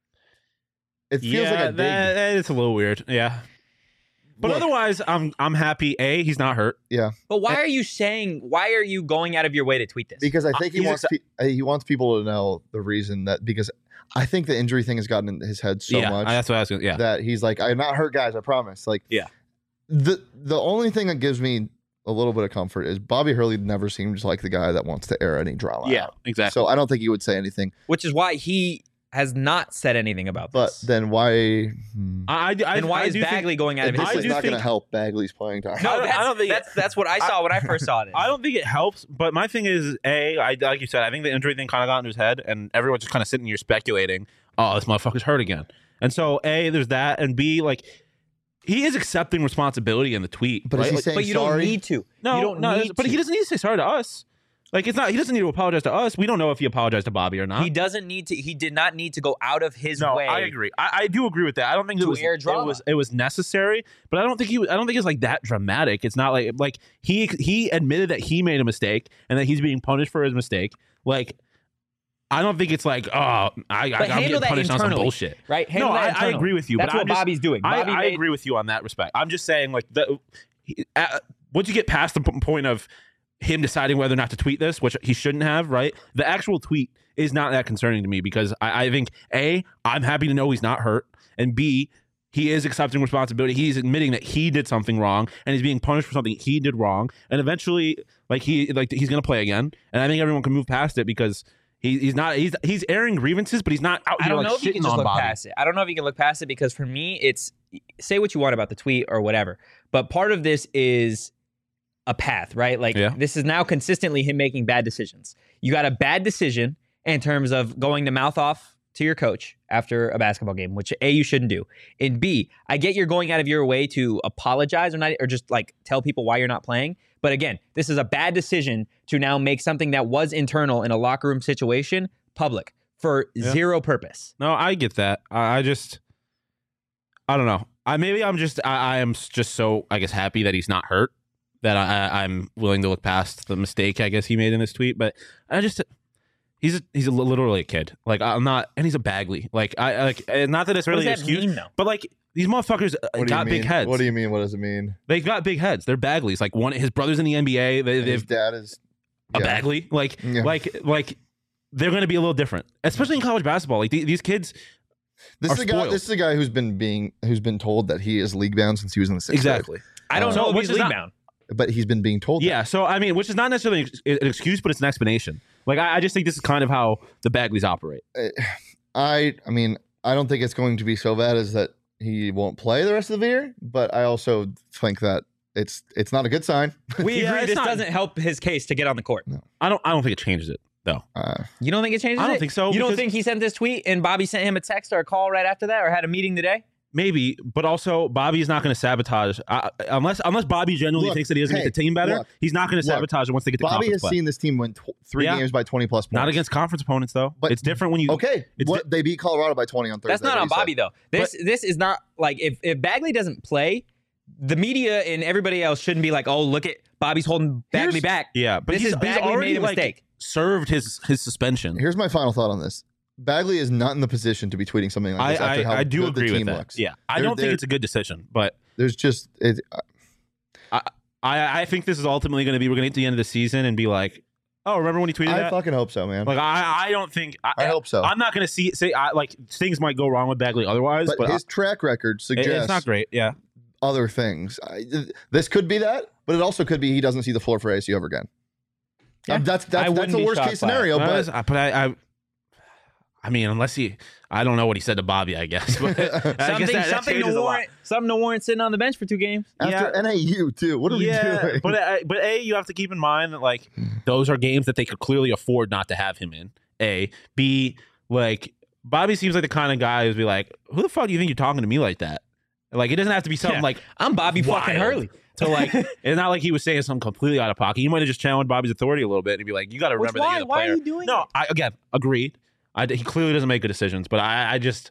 It feels like a dig. It's a little weird. Yeah. But otherwise, I'm happy. He's not hurt. Yeah. But why are you going out of your way to tweet this? Because I think he wants people to know the reason because I think the injury thing has gotten in his head so much. That's what I was going to, that he's like, I'm not hurt, guys, I promise. Like, yeah. The only thing that gives me a little bit of comfort is Bobby Hurley never seems like the guy that wants to air any drama out. Exactly. So I don't think he would say anything. Which is why he has not said anything about this. But then why? Why is Bagley going out of his way? This is not going to help Bagley's playing time. No, I don't think that's what I saw when I first saw this. I don't think it helps. But my thing is, like you said, I think the injury thing kind of got into his head, and everyone's just kind of sitting here speculating, "Oh, this motherfucker's hurt again." And so, there's that, and B, like, he is accepting responsibility in the tweet. But is he saying but you sorry? don't need to. No, you don't need but to. he doesn't need to say sorry to us. Like, it's not. He doesn't need to apologize to us. We don't know if he apologized to Bobby or not. He doesn't need to. He did not need to go out of his way. No, I agree. I do agree with that. I don't think air drama. it was necessary, but I don't think it's like that dramatic. It's not like he admitted that he made a mistake and that he's being punished for his mistake. Like, I don't think it's like, I'm getting punished on some bullshit. Right? I agree with you. That's what Bobby's doing. I agree with you on that respect. I'm just saying, like, once you get past the point of him deciding whether or not to tweet this, which he shouldn't have, right? The actual tweet is not that concerning to me because I think, A, I'm happy to know he's not hurt, and B, he is accepting responsibility. He's admitting that he did something wrong, and he's being punished for something he did wrong. And eventually, he's going to play again. And I think everyone can move past it because he's airing grievances, but he's not out here. I don't know if you can just look past it. I don't know if you can look past it because for me, it's say what you want about the tweet or whatever, but part of this is a path, right? This is now consistently him making bad decisions. You got a bad decision in terms of going to mouth off to your coach after a basketball game, which A, you shouldn't do. And B, I get you're going out of your way to apologize or just tell people why you're not playing. But again, this is a bad decision to now make something that was internal in a locker room situation public for zero purpose. No, I get that. I don't know. I am just so, I guess, happy that he's not hurt that I'm willing to look past the mistake, I guess, he made in this tweet. But he's literally a kid. I'm not, and he's a Bagley. Not that it's really an excuse, mean, though? But these motherfuckers got big heads. What do you mean? What does it mean? They got big heads. They're Bagleys. His brother's in the NBA. His dad is a Bagley. They're going to be a little different, especially in college basketball. These kids. This is a guy who's been told that he is league bound since he was in the sixth grade. Exactly. I don't know if he's league bound. But he's been being told that. Yeah, so, which is not necessarily an excuse, but it's an explanation. I just think this is kind of how the Bagleys operate. I don't think it's going to be so bad as that he won't play the rest of the year, but I also think that it's not a good sign. We agree this doesn't help his case to get on the court. No. I don't think it changes it, though. You don't think it changes it? I don't think so. You don't think he sent this tweet and Bobby sent him a text or a call right after that or had a meeting today? Maybe, but also Bobby is not going to sabotage unless Bobby genuinely thinks that he doesn't make the team better. He's not going to sabotage it once they get to Bobby conference has seen this team win 3 games by 20 plus points. Not against conference opponents though. But it's different when you they beat Colorado by 20 on Thursday. That's not on Bobby though. This is not if Bagley doesn't play, the media and everybody else shouldn't be like, oh, look at Bobby's holding Bagley back. Yeah, but he's already made a mistake. Served his suspension. Here's my final thought on this. Bagley is not in the position to be tweeting something like this after how good the team looks. Yeah, I don't think it's a good decision, but there's just I think this is ultimately going to be we're going to get to the end of the season and be like, oh, remember when he tweeted that? I fucking hope so, man. I don't think I hope so. I'm not going to say things might go wrong with Bagley otherwise, but his track record suggests it's not great. Yeah, other things. This could be that, but it also could be he doesn't see the floor for ASU ever again. Yeah. That's the worst case scenario. Unless I don't know what he said to Bobby, I guess. But something to warrant sitting on the bench for 2 games. After NAU, too. What are we doing? But A, you have to keep in mind that, those are games that they could clearly afford not to have him in. A. B, Bobby seems like the kind of guy who'd be like, who the fuck do you think you're talking to me like that? It doesn't have to be something I'm Bobby fucking Hurley. So it's not like he was saying something completely out of pocket. He might have just challenged Bobby's authority a little bit and be like, you got to remember that you're the player. Why are you doing No, I agreed. He clearly doesn't make good decisions, but I'm just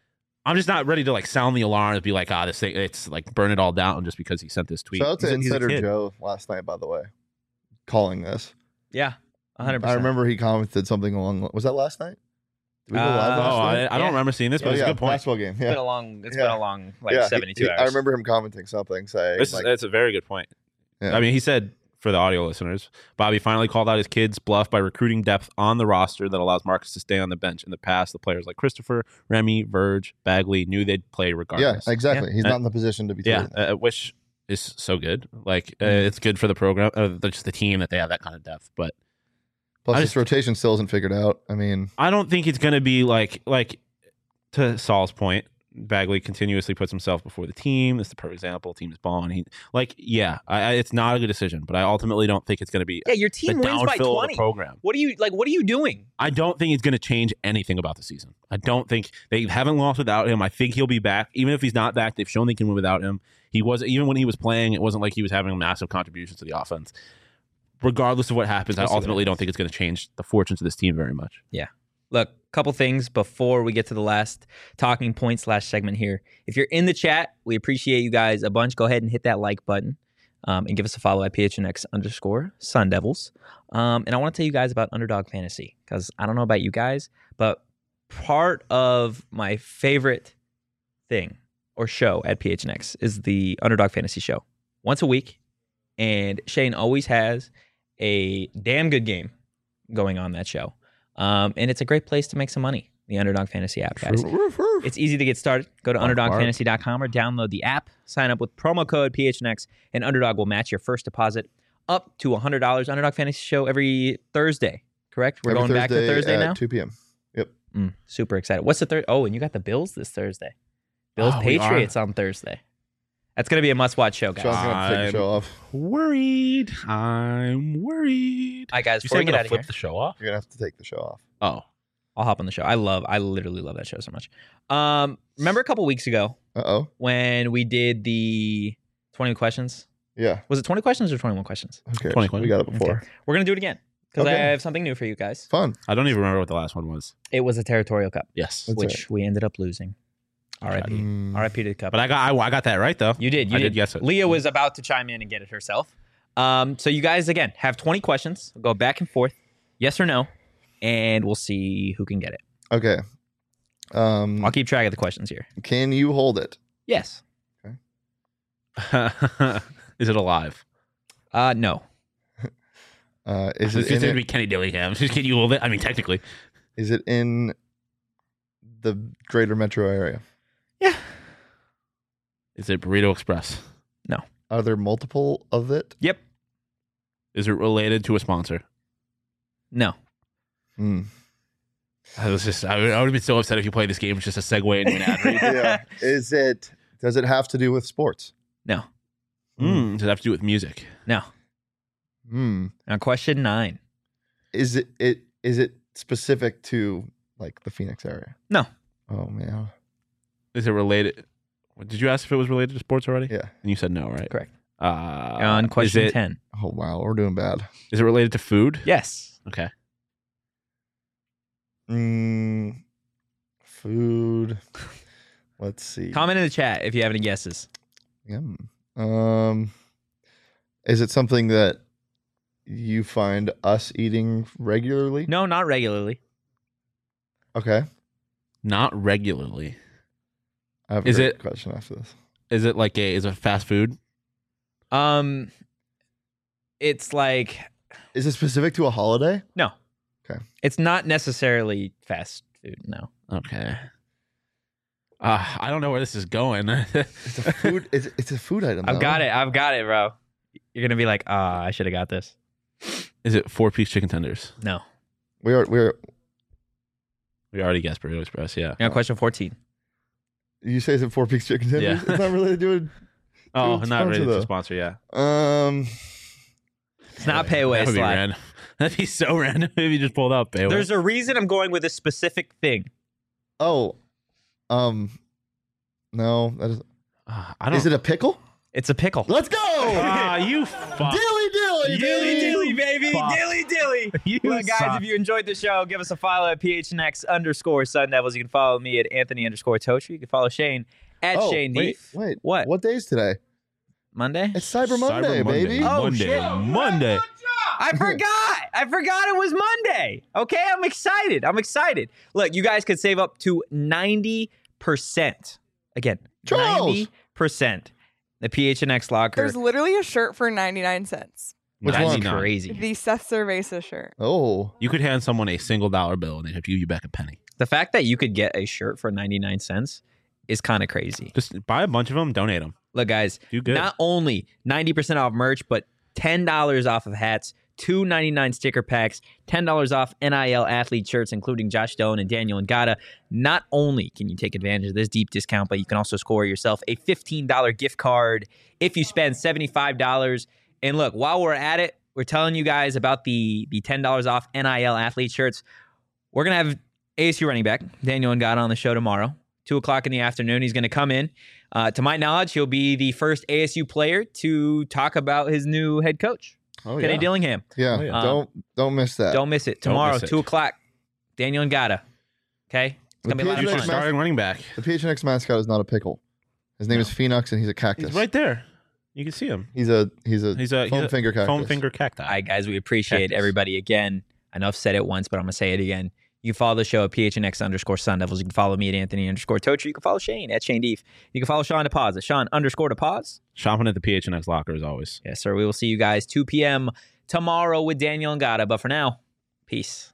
not ready to sound the alarm and be like, this thing, it's burn it all down just because he sent this tweet. Shout out to Insider Joe last night, by the way, calling this. Yeah, 100%. I remember he commented something along. Was that last night? Did we go live last night? I don't remember seeing this, but it's a good point. Basketball game. Yeah. It's been a long 72 hours. I remember him commenting something saying. That's a very good point. Yeah. I mean, he said. For the audio listeners, Bobby finally called out his kid's bluff by recruiting depth on the roster that allows Marcus to stay on the bench. In the past, the players like Christopher, Remy, Verge, Bagley knew they'd play regardless. Yeah, exactly. Yeah. He's not in the position to be. Which is so good. It's good for the program, just the team that they have that kind of depth. But plus, this rotation still isn't figured out. I mean, I don't think it's going to be like to Saul's point. Bagley continuously puts himself before the team. That's the perfect example. Team is balling. It's not a good decision, but I ultimately don't think it's going to be. Yeah, your team wins by 20. Program. What are you doing? I don't think it's going to change anything about the season. I don't think they haven't lost without him. I think he'll be back. Even if he's not back, they've shown they can win without him. Even when he was playing, it wasn't like he was having a massive contribution to the offense. Regardless of what happens, I ultimately don't think it's going to change the fortunes of this team very much. Yeah. Look, couple things before we get to the last talking point / segment here. If you're in the chat, we appreciate you guys a bunch. Go ahead and hit that like button and give us a follow at PHNX_Sun Devils. And I want to tell you guys about Underdog Fantasy because I don't know about you guys, but part of my favorite thing or show at PHNX is the Underdog Fantasy show. Once a week, and Shane always has a damn good game going on that show. And it's a great place to make some money. the Underdog Fantasy app, guys. It's easy to get started. Go to UnderdogFantasy.com or download the app. Sign up with promo code PHNX, and Underdog will match your first deposit up to $100. Underdog Fantasy show every Thursday, correct? We're going back to Thursday now? 2 p.m. Yep. Super excited. What's the third? Oh, and you got the Bills this Thursday. Bills Patriots on Thursday. That's going to be a must-watch show, guys. Sean's going to take the show off. I'm worried. All right, guys, before we get out of flip here. the show off? You're going to have to take the show off. Oh. I'll hop on the show. I literally love that show so much. Remember a couple weeks ago when we did the 20 questions? Yeah. Was it 20 questions or 21 questions? Okay. 20 questions. We got it before. Okay. We're going to do it again because I have something new for you guys. Fun. I don't even remember what the last one was. It was a Territorial Cup. Yes. Which we ended up losing. R.I.P. R.I.P. to the cup. But I got that right, though. You did. I did guess it. Leah was about to chime in and get it herself. So you guys, again, have 20 questions. We'll go back and forth, yes or no, and we'll see who can get it. Okay. I'll keep track of the questions here. Can you hold it? Yes. Okay. Is it alive? No. Is it going to be Kenny Dillingham? Can you hold it? I mean, technically. Is it in the greater metro area? Yeah. Is it Burrito Express? No. Are there multiple of it? Yep. Is it related to a sponsor? No. I would have been so upset if you played this game. It's just a segue into an ad read. Yeah. Does it have to do with sports? No. Does it have to do with music? No. Now, question 9. Is it specific to like the Phoenix area? No. Oh man. Is it related? Did you ask if it was related to sports already? Yeah. And you said no, right? Correct. On On question 10. Oh wow, we're doing bad. Is it related to food? Yes. Okay. Food. Let's see. Comment in the chat if you have any guesses. Yum. Is it something that you find us eating regularly? No, not regularly. Okay. Not regularly. I have a question after this. Is it is it fast food? It's like... Is it specific to a holiday? No. Okay. It's not necessarily fast food, no. Okay. I don't know where this is going. It's a food. It's a food item. I've got it, bro. You're gonna be like, I should have got this. Is it 4-piece chicken tenders? No. We already guessed Burrito Express. Yeah. Yeah. Question 14. You say it's a 4-piece chicken tenders? Yeah. It's not related to it. Oh, not related to a sponsor. Yeah. It's not Payway Slide. That'd be so random if you just pulled up Payway. There's a reason I'm going with a specific thing. Oh. No, that is. I don't. Is it a pickle? It's a pickle. Let's go! You fuck. Dilly, baby. Fuck. Dilly. You Look, guys, suck. if you enjoyed the show, give us a follow at PHNX_Sun Devils. You can follow me at Anthony_Totri. You can follow Shane at Shane Deef. Wait. What? What day is today? Monday? It's Cyber Monday, baby. Oh, Monday. shit. Monday. I forgot it was Monday. Okay, I'm excited. Look, you guys could save up to 90%. Again, Charles. 90%. The PHNX locker. There's literally a shirt for 99 cents. Which That's one? crazy. The Seth Cerveza shirt. Oh. You could hand someone a single dollar bill and they'd have to give you back a penny. The fact that you could get a shirt for 99 cents is kind of crazy. Just buy a bunch of them, donate them. Look, guys, Do good. not only 90% off merch, but $10 off of hats, $2.99 sticker packs, $10 off NIL athlete shirts, including Josh Doan and Daniel Ngata. Not only can you take advantage of this deep discount, but you can also score yourself a $15 gift card if you spend $75. And look, while we're at it, we're telling you guys about the $10 off NIL athlete shirts. We're going to have ASU running back Daniel Ngata on the show tomorrow, 2 o'clock in the afternoon. He's going to come in. To my knowledge, he'll be the first ASU player to talk about his new head coach, Kenny Dillingham. Yeah. Oh, yeah. Don't miss that. Don't miss it. Don't Tomorrow, miss it. 2 o'clock, Daniel Ngata. Okay? It's going to be a lot of Future fun. starting running back. The PHNX mascot is not a pickle. His name is Phoenix, and he's a cactus. He's right there. You can see him. He's a Foam finger cactus. Foam finger cacti. All right, guys, we appreciate everybody again. I know I've said it once, but I'm going to say it again. You can follow the show at PHNX_Sun Devils. You can follow me at Anthony_Totri. You can follow Shane at Shane Deef. You can follow Sean DePaz at Sean_DePaz. Shopping at the PHNX locker as always. Yes, sir. We will see you guys 2 p.m. tomorrow with Daniel Ngata. But for now, peace.